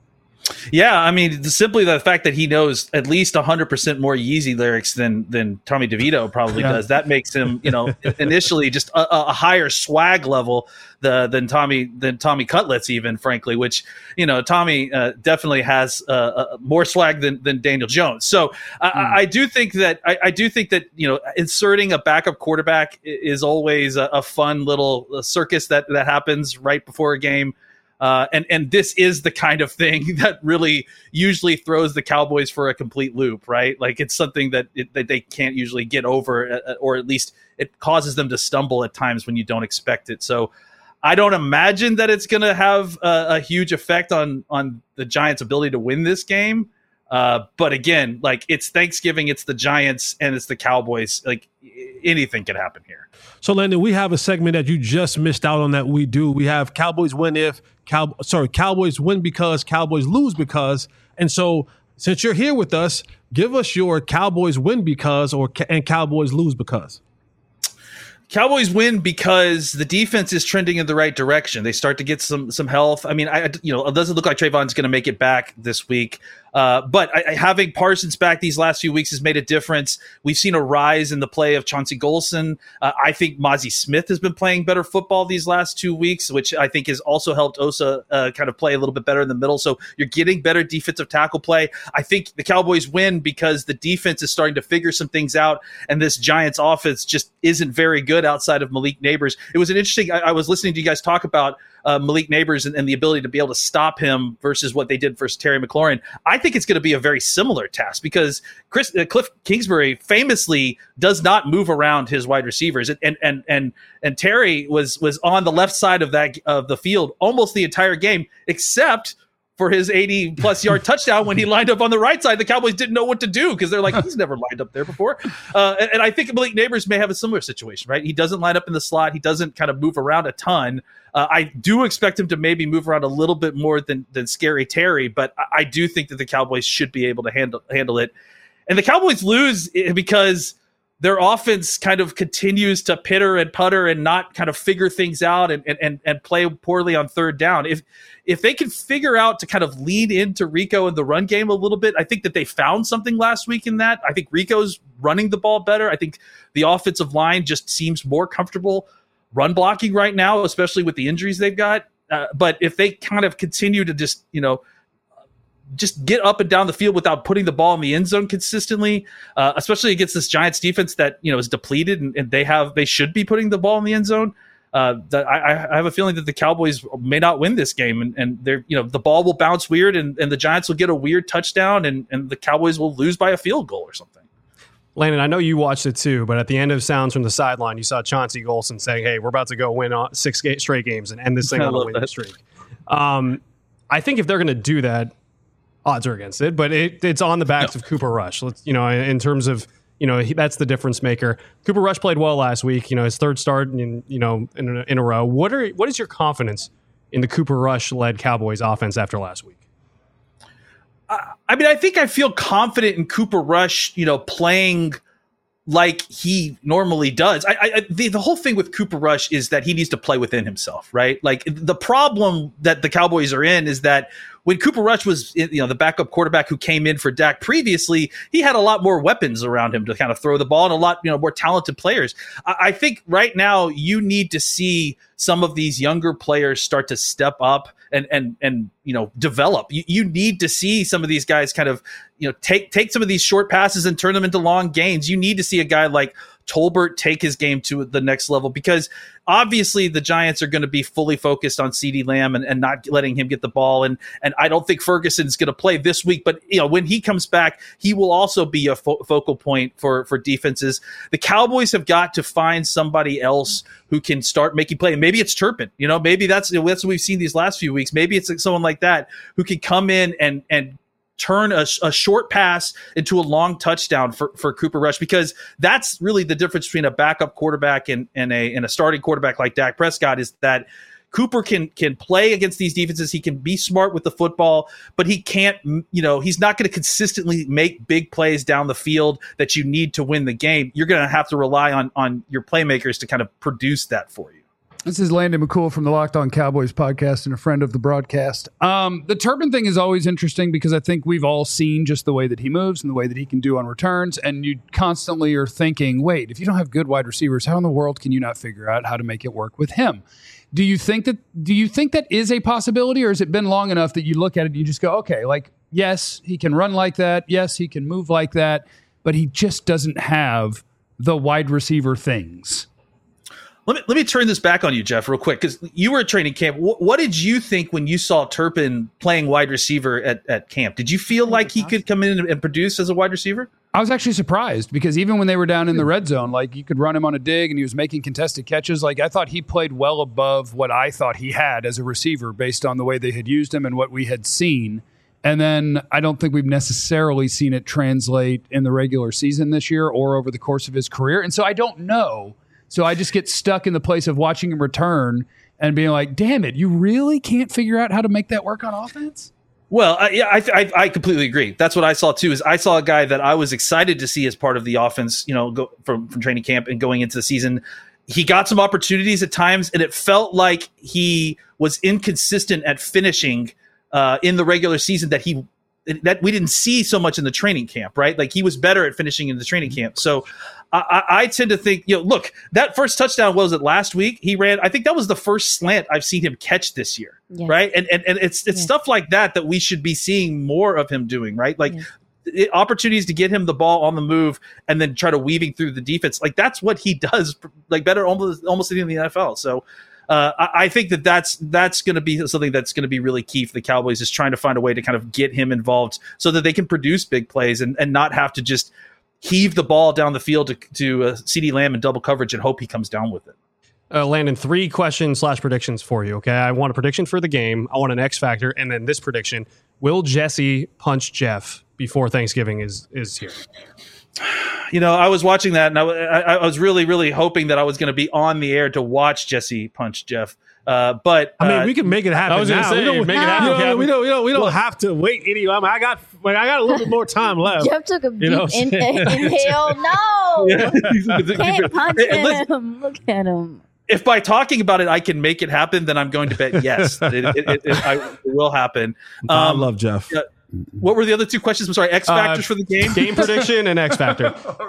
Yeah, I mean, simply the fact that he knows at least one hundred percent more Yeezy lyrics than than Tommy DeVito probably Yeah. does. That makes him, you know, initially just a, a higher swag level the, than Tommy than Tommy Cutlets, even frankly. Which, you know, Tommy uh, definitely has uh, uh, more swag than, than Daniel Jones. So I, I, I do think that I, I do think that you know inserting a backup quarterback i- is always a, a fun little circus that that happens right before a game. Uh, and and this is the kind of thing that really usually throws the Cowboys for a complete loop, right? Like it's something that it, that they can't usually get over, uh, or at least it causes them to stumble at times when you don't expect it. So I don't imagine that it's going to have a, a huge effect on on the Giants' ability to win this game. Uh, but again, like it's Thanksgiving, it's the Giants, and it's the Cowboys. Like anything can happen here. So, Landon, we have a segment that you just missed out on that we do. We have Cowboys win if, Cow- sorry, Cowboys win because, Cowboys lose because. And so, since you're here with us, give us your Cowboys win because or and Cowboys lose because. Cowboys win because the defense is trending in the right direction. They start to get some some health. I mean, I you know it doesn't look like Trayvon's going to make it back this week, uh, but I, I, having Parsons back these last few weeks has made a difference. We've seen a rise in the play of Chauncey Golson. Uh, I think Mozzie Smith has been playing better football these last two weeks, which I think has also helped Osa uh, kind of play a little bit better in the middle. So you're getting better defensive tackle play. I think the Cowboys win because the defense is starting to figure some things out, and this Giants offense just isn't very good outside of Malik Neighbors. It was an interesting, I, I was listening to you guys talk about uh, Malik Neighbors and, and the ability to be able to stop him versus what they did versus Terry McLaurin. I think it's going to be a very similar task because Chris uh, Cliff Kingsbury famously does not move around his wide receivers. And, and, and, and Terry was, was on the left side of that, of the field almost the entire game, except for his eighty plus yard touchdown when he lined up on the right side. The Cowboys didn't know what to do because they're like, he's never lined up there before. Uh, and, and I think Malik Neighbors may have a similar situation, right? He doesn't line up in the slot. He doesn't kind of move around a ton. Uh, I do expect him to maybe move around a little bit more than, than Scary Terry, but I, I do think that the Cowboys should be able to handle, handle it. And the Cowboys lose because their offense kind of continues to pitter and putter and not kind of figure things out and, and, and play poorly on third down. If, if they can figure out to kind of lean into Rico in the run game a little bit, I think that they found something last week in that. I think Rico's running the ball better. I think the offensive line just seems more comfortable run blocking right now, especially with the injuries they've got. Uh, but if they kind of continue to just, you know, just get up and down the field without putting the ball in the end zone consistently, uh, especially against this Giants defense that, you know, is depleted and, and they have, they should be putting the ball in the end zone. Uh, that I, I have a feeling that the Cowboys may not win this game and, and they're, you know, the ball will bounce weird and, and the Giants will get a weird touchdown and, and the Cowboys will lose by a field goal or something. Landon, I know you watched it too, but at the end of Sounds from the Sideline, you saw Chauncey Golson saying, hey, we're about to go win six straight games and end this thing I on a love winning that. streak. Um, I think if they're going to do that, odds are against it, but it, it's on the backs of Cooper Rush. Let's, you know, in terms of, you know, he, that's the difference maker. Cooper Rush played well last week, you know, his third start in, you know, in a, in a row. What are, what is your confidence in the Cooper Rush led Cowboys offense after last week? I mean, I think I feel confident in Cooper Rush, you know, playing like he normally does. I, I the, the whole thing with Cooper Rush is that he needs to play within himself, right? Like the problem that the Cowboys are in is that when Cooper Rush was, you know, the backup quarterback who came in for Dak previously, he had a lot more weapons around him to kind of throw the ball and a lot, you know, more talented players. I, I think right now you need to see some of these younger players start to step up and and and you know develop. You, you need to see some of these guys kind of, you know, take take some of these short passes and turn them into long gains. You need to see a guy like Tolbert take his game to the next level? Because obviously the Giants are going to be fully focused on CeeDee Lamb and, and not letting him get the ball. And and I don't think Ferguson's going to play this week, but you know when he comes back, he will also be a fo- focal point for, for defenses. The Cowboys have got to find somebody else who can start making play. And maybe it's Turpin. You know, maybe that's, that's what we've seen these last few weeks. Maybe it's like someone like that who can come in and and turn a, a short pass into a long touchdown for, for Cooper Rush, because that's really the difference between a backup quarterback and, and a and a starting quarterback like Dak Prescott, is that Cooper can can play against these defenses. He can be smart with the football, but he can't, you know, he's not going to consistently make big plays down the field that you need to win the game. You're going to have to rely on on your playmakers to kind of produce that for you. This is Landon McCool from the Locked On Cowboys podcast and a friend of the broadcast. Um, the Turpin thing is always interesting because I think we've all seen just the way that he moves and the way that he can do on returns. And you constantly are thinking, wait, if you don't have good wide receivers, how in the world can you not figure out how to make it work with him? Do you think that, do you think that is a possibility, or has it been long enough that you look at it and you just go, okay, like, yes, he can run like that. Yes, he can move like that, but he just doesn't have the wide receiver things. Let me let me turn this back on you, Jeff, real quick, because you were at training camp. What, what did you think when you saw Turpin playing wide receiver at, at camp? Did you feel like he could come in and, and produce as a wide receiver? I was actually surprised because even when they were down in the red zone, like you could run him on a dig and he was making contested catches. Like I thought he played well above what I thought he had as a receiver based on the way they had used him and what we had seen. And then I don't think we've necessarily seen it translate in the regular season this year or over the course of his career. And so I don't know. So I just get stuck in the place of watching him return and being like, damn it, you really can't figure out how to make that work on offense? Well, I, yeah, I, I, I completely agree. That's what I saw too. Is I saw a guy that I was excited to see as part of the offense, you know, go from, from training camp and going into the season. He got some opportunities at times, and it felt like he was inconsistent at finishing uh, in the regular season. That he that we didn't see so much in the training camp, right? Like he was better at finishing in the training camp. So I, I tend to think, you know, look, that first touchdown, what was it, last week? He ran, I think that was the first slant I've seen him catch this year, yeah. right? And and and it's it's yeah. stuff like that that we should be seeing more of him doing, right? Like yeah. it, opportunities to get him the ball on the move and then try to weaving through the defense. Like that's what he does, like better almost almost in the N F L. So uh, I, I think that that's that's going to be something that's going to be really key for the Cowboys, is trying to find a way to kind of get him involved so that they can produce big plays and, and not have to just heave the ball down the field to, to uh, CeeDee Lamb in double coverage and hope he comes down with it. Uh, Landon, three questions slash predictions for you, okay? I want a prediction for the game. I want an X factor. And then this prediction. Will Jesse punch Jeff before Thanksgiving is is here? You know, I was watching that, and I, I, I was really, really hoping that I was going to be on the air to watch Jesse punch Jeff. Uh, but I mean, uh, we can make it happen. I was going to now. say, we don't, make it happen. You know, we don't, we don't, we don't have to wait any. I, mean, I got, like, I got a little bit more time left. Jeff took a deep You know in, inhale. No, can't punch him. Look at him. If by talking about it I can make it happen, then I'm going to bet yes, it, it, it, it, I, it will happen. Um, I love Jeff. Uh, what were the other two questions? I'm sorry, X factors uh, for the game? Game prediction and X factor.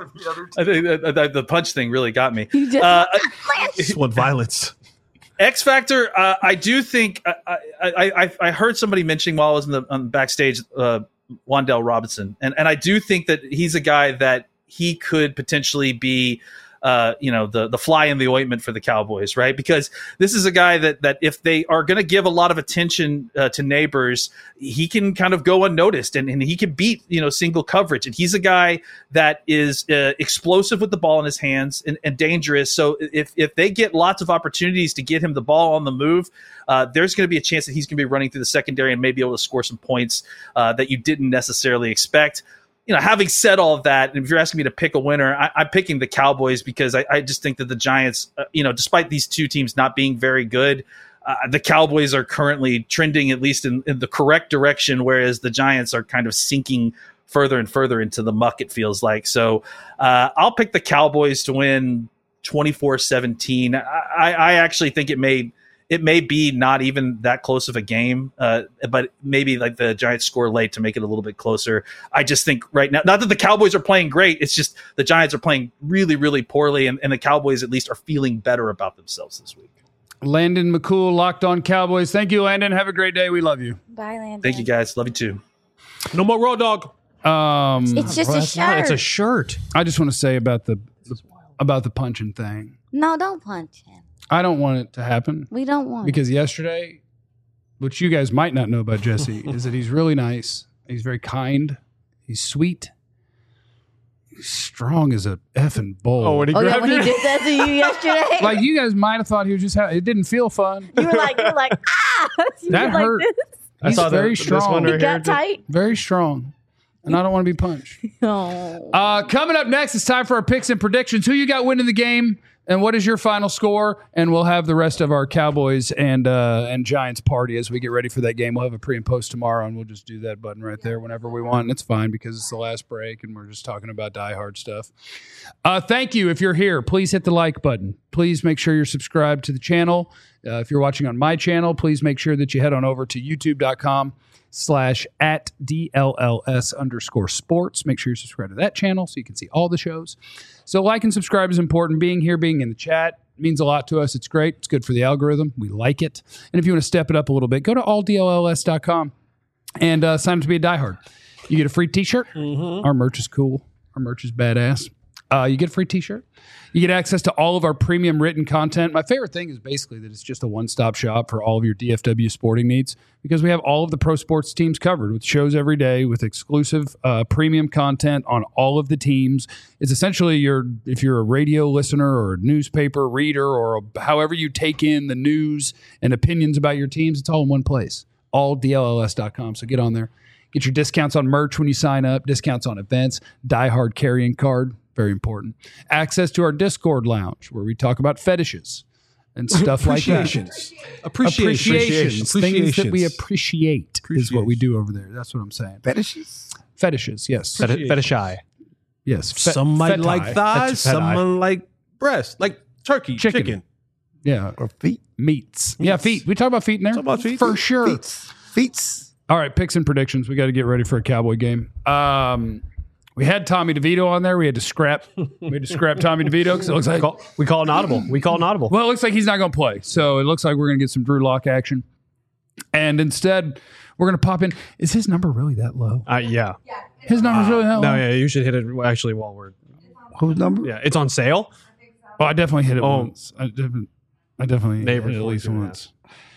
I think the, the, the punch thing really got me. You just Uh, This one violence. X Factor, uh, I do think I, I, I, I heard somebody mentioning while I was in the on backstage, uh, Wan'Dale Robinson, and and I do think that he's a guy that he could potentially be, uh, you know, the the fly in the ointment for the Cowboys, right? Because this is a guy that that if they are going to give a lot of attention uh, to neighbors, he can kind of go unnoticed, and, and he can beat, you know, single coverage. And he's a guy that is uh, explosive with the ball in his hands and, and dangerous. So if if they get lots of opportunities to get him the ball on the move, uh, there's going to be a chance that he's going to be running through the secondary and maybe able to score some points uh, that you didn't necessarily expect. You know, having said all of that, and if you're asking me to pick a winner, I, I'm picking the Cowboys because I, I just think that the Giants, uh, you know, despite these two teams not being very good, uh, the Cowboys are currently trending at least in, in the correct direction, whereas the Giants are kind of sinking further and further into the muck, it feels like. So uh, I'll pick the Cowboys to win twenty-four seventeen. I, I actually think it may it may be not even that close of a game, uh, but maybe like the Giants score late to make it a little bit closer. I just think right now, not that the Cowboys are playing great, it's just the Giants are playing really, really poorly, and, and the Cowboys at least are feeling better about themselves this week. Landon McCool, Locked On Cowboys. Thank you, Landon. Have a great day. We love you. Bye, Landon. Thank you, guys. Love you too. No more Raw Dog. Um, It's just Well, a that's not- shirt. It's a shirt. I just want to say about the, the about the punching thing. No, don't punch him. I don't want it to happen We don't want because yesterday, which you guys might not know about Jesse, is that he's really nice. He's very kind. He's sweet. He's strong as a effing bull. Oh, when he it. Oh, yeah, grabbed when he you? did that to you yesterday. Like you guys might have thought he was just. Ha- it didn't feel fun. you were like, you were like, ah. You That were like hurt. this. I He's saw the- very this strong. one He right here. got tight. Very strong. And I don't want to be punched. Oh. Uh, coming up next, it's time for our picks and predictions. Who you got winning the game, and what is your final score? And we'll have the rest of our Cowboys and uh, and Giants party as we get ready for that game. We'll have a pre and post tomorrow, and we'll just do that button right there whenever we want. And it's fine because it's the last break, and we're just talking about Die Hard stuff. Uh, thank you. If you're here, please hit the like button. Please make sure you're subscribed to the channel. Uh, if you're watching on my channel, please make sure that you head on over to youtube.com slash at DLLS underscore sports. Make sure you subscribe to that channel so you can see all the shows. So like and subscribe is important. Being here, being in the chat means a lot to us. It's great. It's good for the algorithm. We like it. And if you want to step it up a little bit, go to all D L L S dot com and uh, sign up to be a diehard. You get a free t-shirt. Mm-hmm. Our merch is cool. Our merch is badass. Uh, you get a free t-shirt. You get access to all of our premium written content. My favorite thing is basically that it's just a one-stop shop for all of your D F W sporting needs because we have all of the pro sports teams covered with shows every day with exclusive uh, premium content on all of the teams. It's essentially your if you're a radio listener or a newspaper reader or a, however you take in the news and opinions about your teams, it's all in one place. all D L L S dot com. So get on there. Get your discounts on merch when you sign up, discounts on events, Die Hard carrying card. Very important. Access to our Discord lounge where we talk about fetishes and stuff like that. Appreciations. Appreciations. Things that we Appreciations. appreciate is what we do over there. That's what I'm saying. Fetishes? Fetishes, yes. Fet- Fetishy. Yes. Fe- Some might feti. like thighs, Feti. some like breast, like turkey, Chicken. chicken. Yeah. Or feet? Meats. Yeah, feet. We talk about feet in there? Talk about feet. For sure. Feets. Feets. All right, picks and predictions. We got to get ready for a Cowboy game. Um, we had Tommy DeVito on there. We had to scrap. We had to scrap Tommy DeVito because it looks like Call, we call an audible. We call an audible. well, it looks like he's not going to play. So it looks like we're going to get some Drew Lock action, and instead we're going to pop in. Is his number really that low? Uh, yeah. His number's really that low. No, yeah. You should hit it actually while we're. Whose number? Yeah, it's on sale. Well, I definitely hit it Oh. once. I definitely, I definitely Neighbor hit it at least forty-two and a once.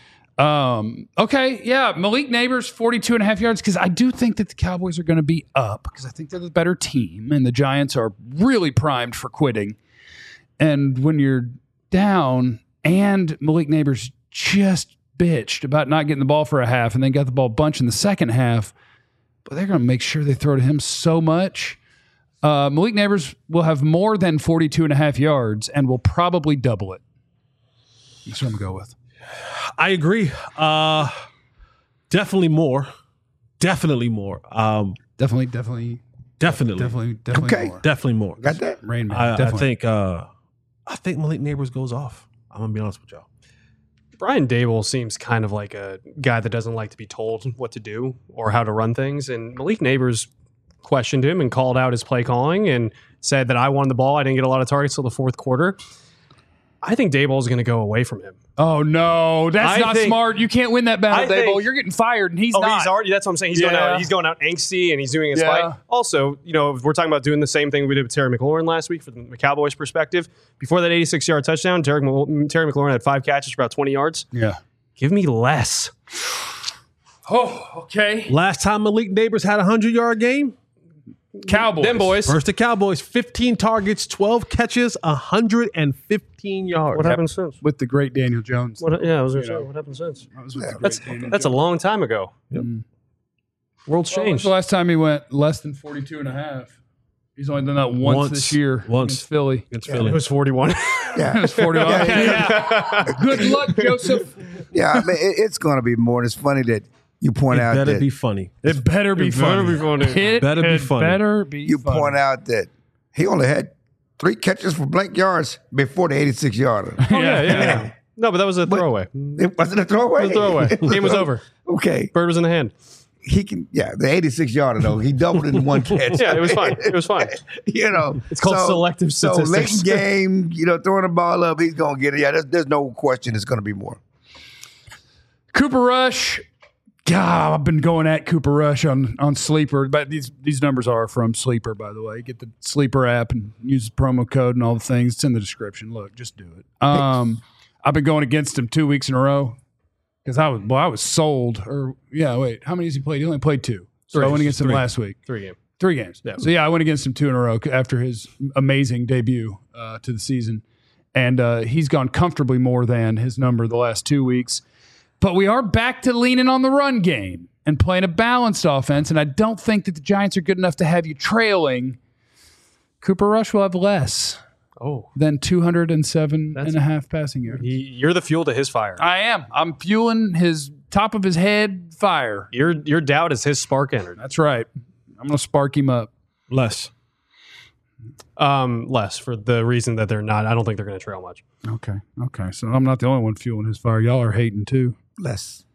Um, okay, yeah, Malik Neighbors, forty-two and a half yards, because I do think that the Cowboys are going to be up, because I think they're the better team, and the Giants are really primed for quitting. And when you're down, and Malik Neighbors just bitched about not getting the ball for a half, and then got the ball a bunch in the second half, but they're going to make sure they throw to him so much. Uh, Malik Neighbors will have more than forty-two and a half yards and will probably double it. That's what I'm going to go with. I agree. Uh, definitely more. Definitely more. Um, Definitely, definitely, definitely. definitely, definitely Okay. more. Definitely more. Got that? Rain Man, I, I definitely. think. Uh, I think Malik Neighbors goes off. I'm gonna be honest with y'all. Brian Dable seems kind of like a guy that doesn't like to be told what to do or how to run things. And Malik Neighbors questioned him and called out his play calling and said that I won the ball. I didn't get a lot of targets till the fourth quarter. I think Dable is going to go away from him. Oh no, that's I not think- smart. You can't win that battle, I Dable. think- You're getting fired, and he's oh, not. he's already. That's what I'm saying. He's going Yeah. out. He's going out angsty, and he's doing his Yeah. fight. Also, you know, if we're talking about doing the same thing we did with Terry McLaurin last week from the Cowboys' perspective. Before that eighty-six yard touchdown, Terry, Terry McLaurin had five catches for about twenty yards. Yeah. Give me less. Oh, okay. Last time Malik Neighbors had a hundred yard game, Cowboys. Them boys. versus the Cowboys, fifteen targets, twelve catches, a hundred and fifteen yards. What happened since? with the great Daniel Jones. What, yeah, I was going You to say, know. what happened since? That was with the great That's Daniel that's a Jones. long time ago. Mm. World's Well, when's changed. the last time he went less than forty-two and a half? He's only done that once, Once. this year. Once. Against Philly. Against It Philly. was forty-one. It Yeah. was forty-one. Yeah, Okay, yeah. Good luck, Joseph. Yeah, I mean, it, it's going to be more. And it's funny that you point It out better that be funny. It better be It funny. better be funny. It Better be it funny. Better be you funny. point out that he only had three catches for blank yards before the eighty-six yarder. Oh, yeah, yeah, yeah. No, but that was a throwaway. It wasn't a throwaway. It was a throwaway. Game was over. Okay, Bird was in the hand. he can. Yeah, the eighty-six yarder though, he doubled it in one catch. Yeah, it was fine. It was fine. You know, It's called selective So statistics. late game, you know, throwing the ball up, he's gonna get it. Yeah, there's, there's no question it's gonna be more. Cooper Rush, God, I've been going at Cooper Rush on, on Sleeper, but these these numbers are from Sleeper, by the way. Get the Sleeper app and use the promo code and all the things. It's in the description. Look, just do it. Um, I've been going against him two weeks in a row because I was well, I was sold. Or yeah, wait, how many has he played? He only played two. So Three. I went against him Three. last week. Three games. Three games. Yeah. So yeah, I went against him two in a row after his amazing debut uh, to the season, and uh, he's gone comfortably more than his number the last two weeks. But we are back to leaning on the run game and playing a balanced offense, and I don't think that the Giants are good enough to have you trailing. Cooper Rush will have less Oh, than two hundred seven That's- and a half passing yards. he, you're the fuel to his fire. I am. I'm fueling his top of his head fire. Your your doubt is his spark energy. That's right. I'm going to spark him up. Less. Um, less for the reason that they're not. I don't think they're going to trail much. Okay. Okay. So I'm not the only one fueling his fire. Y'all are hating too. Less.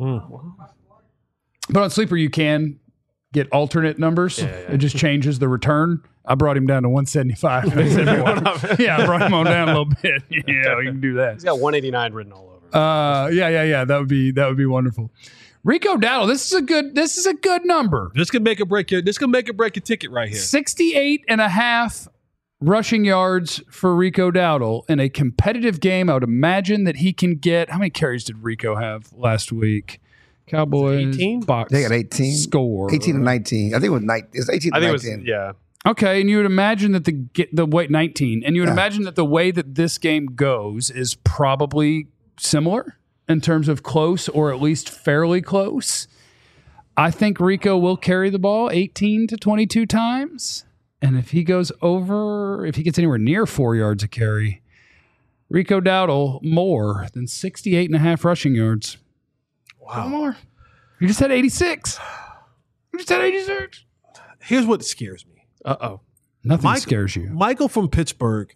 But on Sleeper, you can get alternate numbers. Yeah, yeah. It just changes the return. I brought him down to one seventy-five. Yeah, I brought him on down a little bit. Yeah, we can do that. He's got one eighty-nine written all over. Uh, yeah, yeah, yeah. That would be that would be wonderful. Rico Dowdle, this is a good this is a good number. This could make a break your. This could make a break your ticket right here. sixty-eight and a half rushing yards for Rico Dowdle in a competitive game. I would imagine that he can get. How many carries did Rico have last week? Cowboys eighteen? box They got eighteen. score. eighteen and nineteen. I think it was nine. It's eighteen I and think it was nineteen. yeah. Okay, and you would imagine that the get the wait nineteen, and you would Yeah. imagine that the way that this game goes is probably similar in terms of close or at least fairly close. I think Rico will carry the ball eighteen to twenty-two times, and if he goes over, if he gets anywhere near four yards a carry, Rico Dowdle more than sixty-eight and a half rushing yards. Wow, more. You just had eighty-six. You just had eighty-six. Here's what scares me. Uh oh. Nothing Mike- scares you. Michael from Pittsburgh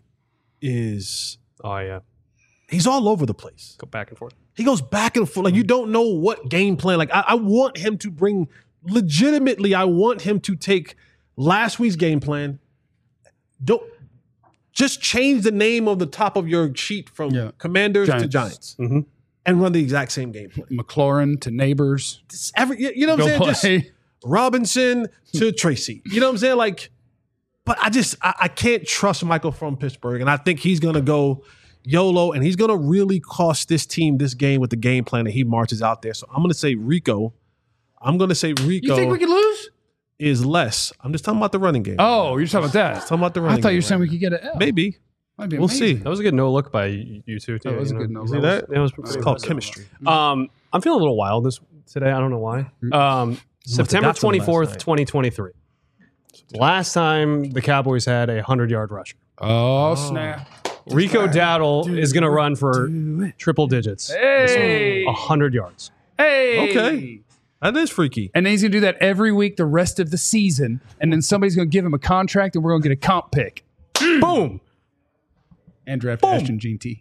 is Oh yeah. he's all over the place. Go back and forth. He goes back and forth. Like you don't know what game plan. Like I, I want him to bring legitimately. I want him to take last week's game plan. Don't just change the name of the top of your sheet from Yeah. Commanders to Giants. Giants Mm-hmm. and run the exact same game plan. McLaurin to Neighbors. It's every, you you know what Go I'm saying? play. Just Robinson to Tracy. You know what I'm saying? Like, but I just I, I can't trust Michael from Pittsburgh, and I think he's gonna go YOLO, and he's gonna really cost this team this game with the game plan that he marches out there. So I'm gonna say Rico. I'm gonna say Rico You think we could lose? is less. I'm just talking about the running game. Oh, you're talking about that. talking about the I running. thought you game were saying right we could get an L. now. maybe. Might be We'll amazing. see. That was a good no look by you you two too. That was you a good know. no You see look. that? That was It's pretty called impressive. chemistry. Um, I'm feeling a little wild this today. I don't know why. Um, September got some last twenty-fourth, night. twenty twenty-three. Last time the Cowboys had a hundred yard rusher. Oh, snap. Rico Dowdle is going to run for triple digits. Hey. A hundred yards. Hey. Okay. That is freaky. And then he's going to do that every week the rest of the season. And then somebody's going to give him a contract and we're going to get a comp pick. Boom. And draft Ashton G T.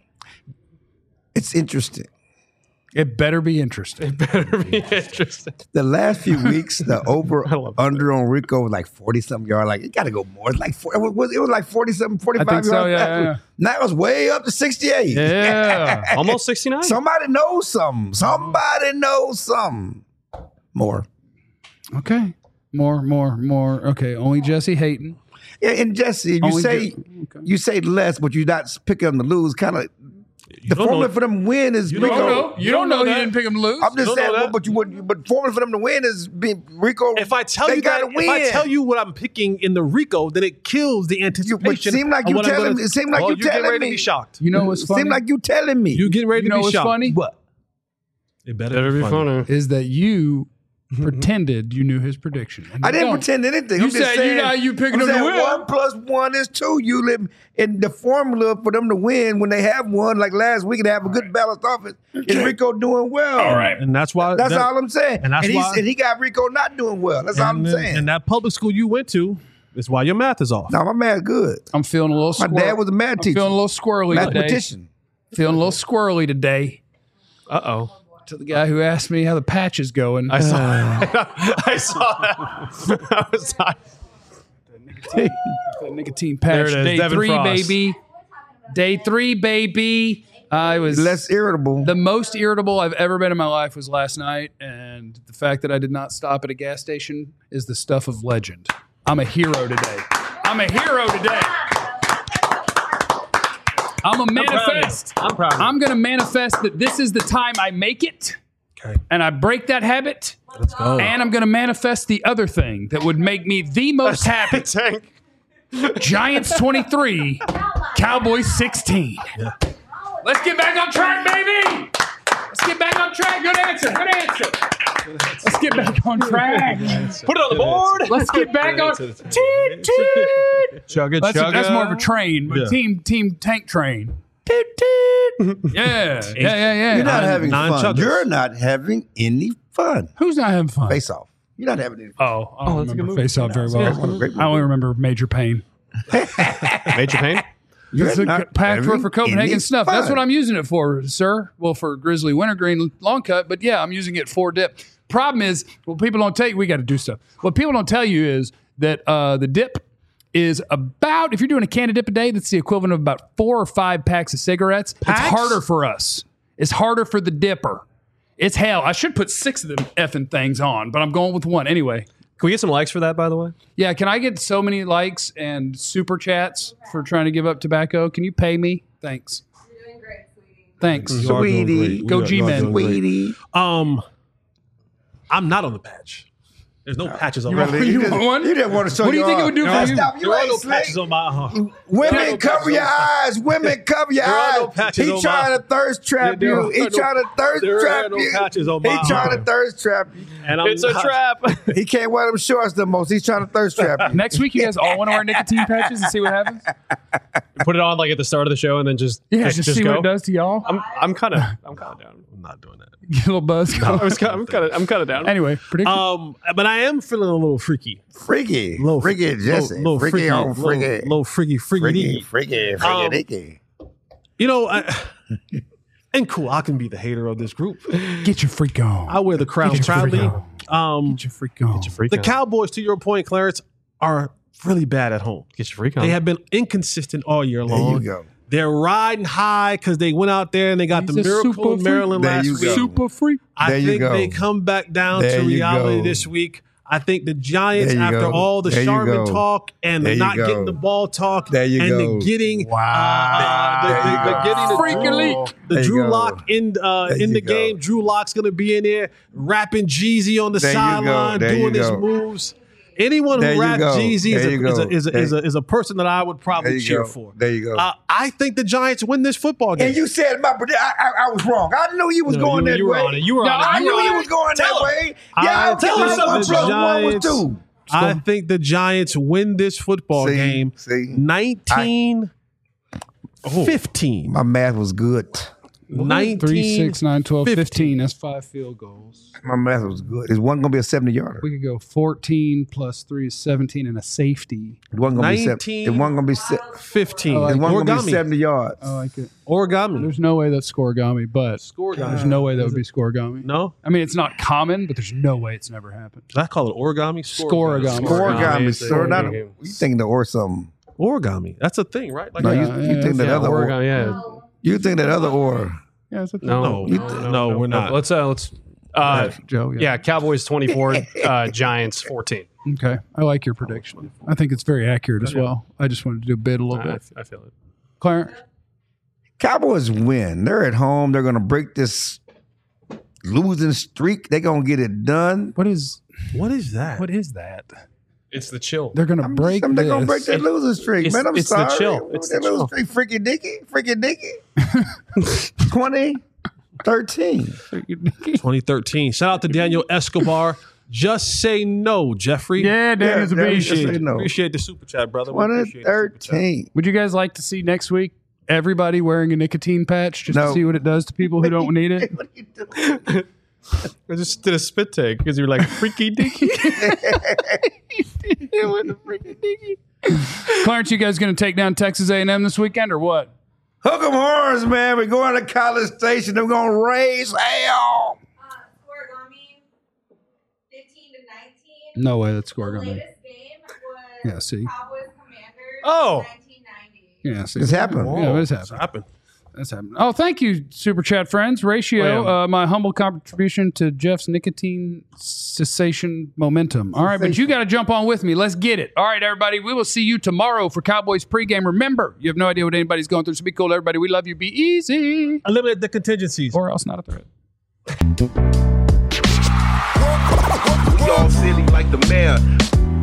It's interesting. It better be interesting. Better be interesting. The last few weeks, the over I love under on Rico was like forty something yards. Like it got to go more. It's like four, it was it was like forty something, forty I five think so, yards. yeah, yeah. Now it's way up to sixty eight. Yeah. Almost sixty-nine. Somebody knows something. Somebody knows something. More. Okay. More, more, more. Okay. Only Jesse Hayton. Yeah, and Jesse, you Only say ju- okay. you say less, but you're not picking them to lose. Kind of the don't formula know- for them to win is You Rico. don't know. You don't know that. you didn't pick him to lose. I'm just don't saying, know well, that. but you would. But formula for them to win is be Rico. If I tell they you that, gotta win. if I tell you what I'm picking in the Rico, then it kills the You, anticipation. but seem like of you what I'm telling gonna- me. It seem like Oh, you getting telling ready me. to be shocked. You know what's funny? Seem like you telling me. You getting ready You to know be what's shocked. funny? what? It better, Better be funny. is that you pretended you knew his prediction. And I you didn't don't. pretend anything. You I'm just said saying, you know you picking I'm them to saying win. One plus one is two. You live in the formula for them to win when they have one. Like last week, they have a good balanced offense. Is Rico doing well? All right. And that's why. That's that, all I'm saying. and that's he's, why- and he got Rico not doing well. That's all I'm and, saying. and that public school you went to is why your math is off. no, my man's good. I'm feeling a little My squirrely. dad was a math I'm teacher. feeling a little squirrely today. Mathematician. Feeling a little squirrely today. Uh oh. To the guy who asked me how the patch is going. I saw. I saw that. I was like, The nicotine patch. There it is, Day Devin three, Frost. baby. Day three, baby. I was Less irritable. the most irritable I've ever been in my life was last night, and And the fact that I did not stop at a gas station is the stuff of legend. I'm a hero today. I'm a hero today. I'm a manifest. I'm proud of you. I'm going to manifest that this is the time I make it. Okay. And I break that habit. Let's go. And I'm going to manifest the other thing that would make me the most happy. Tank. Giants twenty-three, Cowboys sixteen. Yeah. Let's get back on track, baby. Let's get back on track. Good answer. Good answer. Let's get back on track. Put it on the board. Let's get back on. Toot, toot. Chugga, That's, a, chugga. that's more of a train, but Yeah. team team tank train. Toot, toot. Yeah, yeah, yeah, yeah. You're not Nine- having nine fun. chuggers. You're not having any fun. Who's not having fun? Face off. You're not having any fun. Oh, I don't that's a good remember movie. Face Off very Yeah, well. it's one of the great I only movies. remember Major Pain. Major pain. You're It's a not pack for, having for Copenhagen any snuff. That's fun. what I'm using it for, sir. Well, for Grizzly Wintergreen long cut, but yeah, I'm using it for dip. Problem is, what people don't tell you, we got to do stuff. What people don't tell you is that uh, the dip is about, if you're doing a can of dip a day, that's the equivalent of about four or five packs of cigarettes. Packs? It's harder for us. It's harder for the dipper. It's hell. I should put six of them effing things on, but I'm going with one anyway. Can we get some likes for that, by the way? Yeah, can I get so many likes and super chats for trying to give up tobacco? Can you pay me? Thanks. You're doing great, sweetie. Thanks. You are doing Sweetie. great. Go You are- you are G-Men. doing great. Sweetie. Um, I'm not on the patch. There's no patches on You my want- you just, want one? You didn't want to show What do you your think it arm. would do for No, you? Stop. You There are ain't no slick. patches on my. Uh, Women, There are no cover patches your on my- eyes. Women, cover your There are eyes. no patches he on trying my- to thirst trap There- there you. are He no- trying to thirst there are trap no you. patches on He my trying to arm. thirst trap you. and I'm It's a not- trap. He can't wear them shorts the most. He's trying to thirst trap you. Next week, you guys all want to wear nicotine patches and see what happens? Put it on like at the start of the show and then just Yeah, just, just, just see go. what it does to y'all. I'm I'm kind of I'm kind of down. I'm not doing that. Get a little buzz. I was kind I'm kind of I'm kind of down. Anyway, prediction. Um, but I am feeling a little freaky. Freaky. Little freaky Jesse. Little, little freaky freaky. on Little, freaky. little freaky, freaky. Freaky, freaky, freaky, Um, dicky. You know, I, and cool. I can be the hater of this group. Get your freak on. I wear the crown Get your proudly. freak on. Um, Get your freak on. Freak the on. Cowboys, to your point, Clarence, are really bad at home. Get your freak on. They have been inconsistent all year There long. you go. They're riding high because they went out there and they got He's the a miracle super in Maryland freak. There last you week. go. Super freak. I There you think go. they come back down There to you reality go. this week. I think the Giants, There you after go. all the There you Charmin go. talk and There the you not go. getting the ball talk There you and go. the getting Wow. uh, the, There the, you the go. getting the Freak Drew, elite. the There you Drew go. Lock in uh, There in you the go. game. Drew Lock's gonna be in there rapping Jeezy on the There you go. sideline, There doing you his go. moves. Anyone There who you raps go. Jeezy is There a, you is, a, go. is, a, is, a, is a person that I would There probably you cheer go. for. There you go. Uh, I think the Giants win this football game. And you said my prediction. I, I, I was wrong. I knew you was No, going you- that you were way. on it. You were no, on it. I You knew were you on was it. going Tell that him. way. I Yeah, I tell think him one the plus one was Giants- two. I think the Giants win this football See, game see. nineteen fifteen. My math was good. nineteen Three, six, nine, twelve, fifteen. fifteen. That's five field goals. My math was good. Is one gonna be a seventy yarder? We could go fourteen plus three is seventeen and a safety. Is one gonna be seven? nineteen. Is one gonna be se- fifteen. Oh, Is one gonna be Origami. seventy yards? I like it. Origami. There's no way that's scoregami, but Scoregami. there's no way that would be scoregami. No? I mean, it's not common, but there's no way it's never happened. Did I call it origami? Scoregami. Origami, is the sir. Not game. you thinking the or something? Origami. That's a thing, right? Like No, Yeah, you, yeah, you think that Yeah, other or. Oregon, yeah. No. You think that other or. Yeah, it's a thing. No, No, no, no, no, no, we're not. Let's uh, let's uh, Joe. Yeah. yeah, Cowboys twenty-four, uh, Giants fourteen. Okay. I like your prediction. I think it's very accurate as well. I just wanted to do a bid a little I, bit. I feel it. Clarence. Cowboys win. They're at home. They're gonna break this losing streak. They're gonna get it done. What is What is that? what is that? It's the chill. They're gonna I'm break just- they're gonna break this. that losing streak, it's- man. I'm it's the sorry. chill. It's that the losing chill. streak, freaky dicky, freaky dicky. twenty thirteen. twenty thirteen. Shout out to Daniel Escobar. Just say no, Jeffrey. Yeah, Daniel's a Yeah, beast. Just say Appreciate, no. appreciate the super chat, brother. We twenty appreciate the super chat. thirteen. Would you guys like to see next week everybody wearing a nicotine patch just No. to see what it does to people who don't need it? What are you doing? I just did a spit take because you were like freaky dicky. Clarence, you guys going to take down Texas A and M this weekend or what? Hook 'em horns, man. We're going to College Station. They're gonna raise hell. Uh, Scoregami, fifteen to nineteen. No way that's The scoregami. latest game was Yeah, see. Cowboys Commanders. Oh. nineteen ninety. Yeah, see. It's happened. Yeah, it is It's happening. happened. That's happening. Oh, thank you, Super Chat friends. Ratio, Well, uh, my humble contribution to Jeff's nicotine cessation momentum. All right, but you got to jump on with me. Let's get it. All right, everybody. We will see you tomorrow for Cowboys pregame. Remember, you have no idea what anybody's going through, so be cool, everybody. We love you. Be easy. Eliminate the contingencies. Or else not a threat. We all silly like the mayor.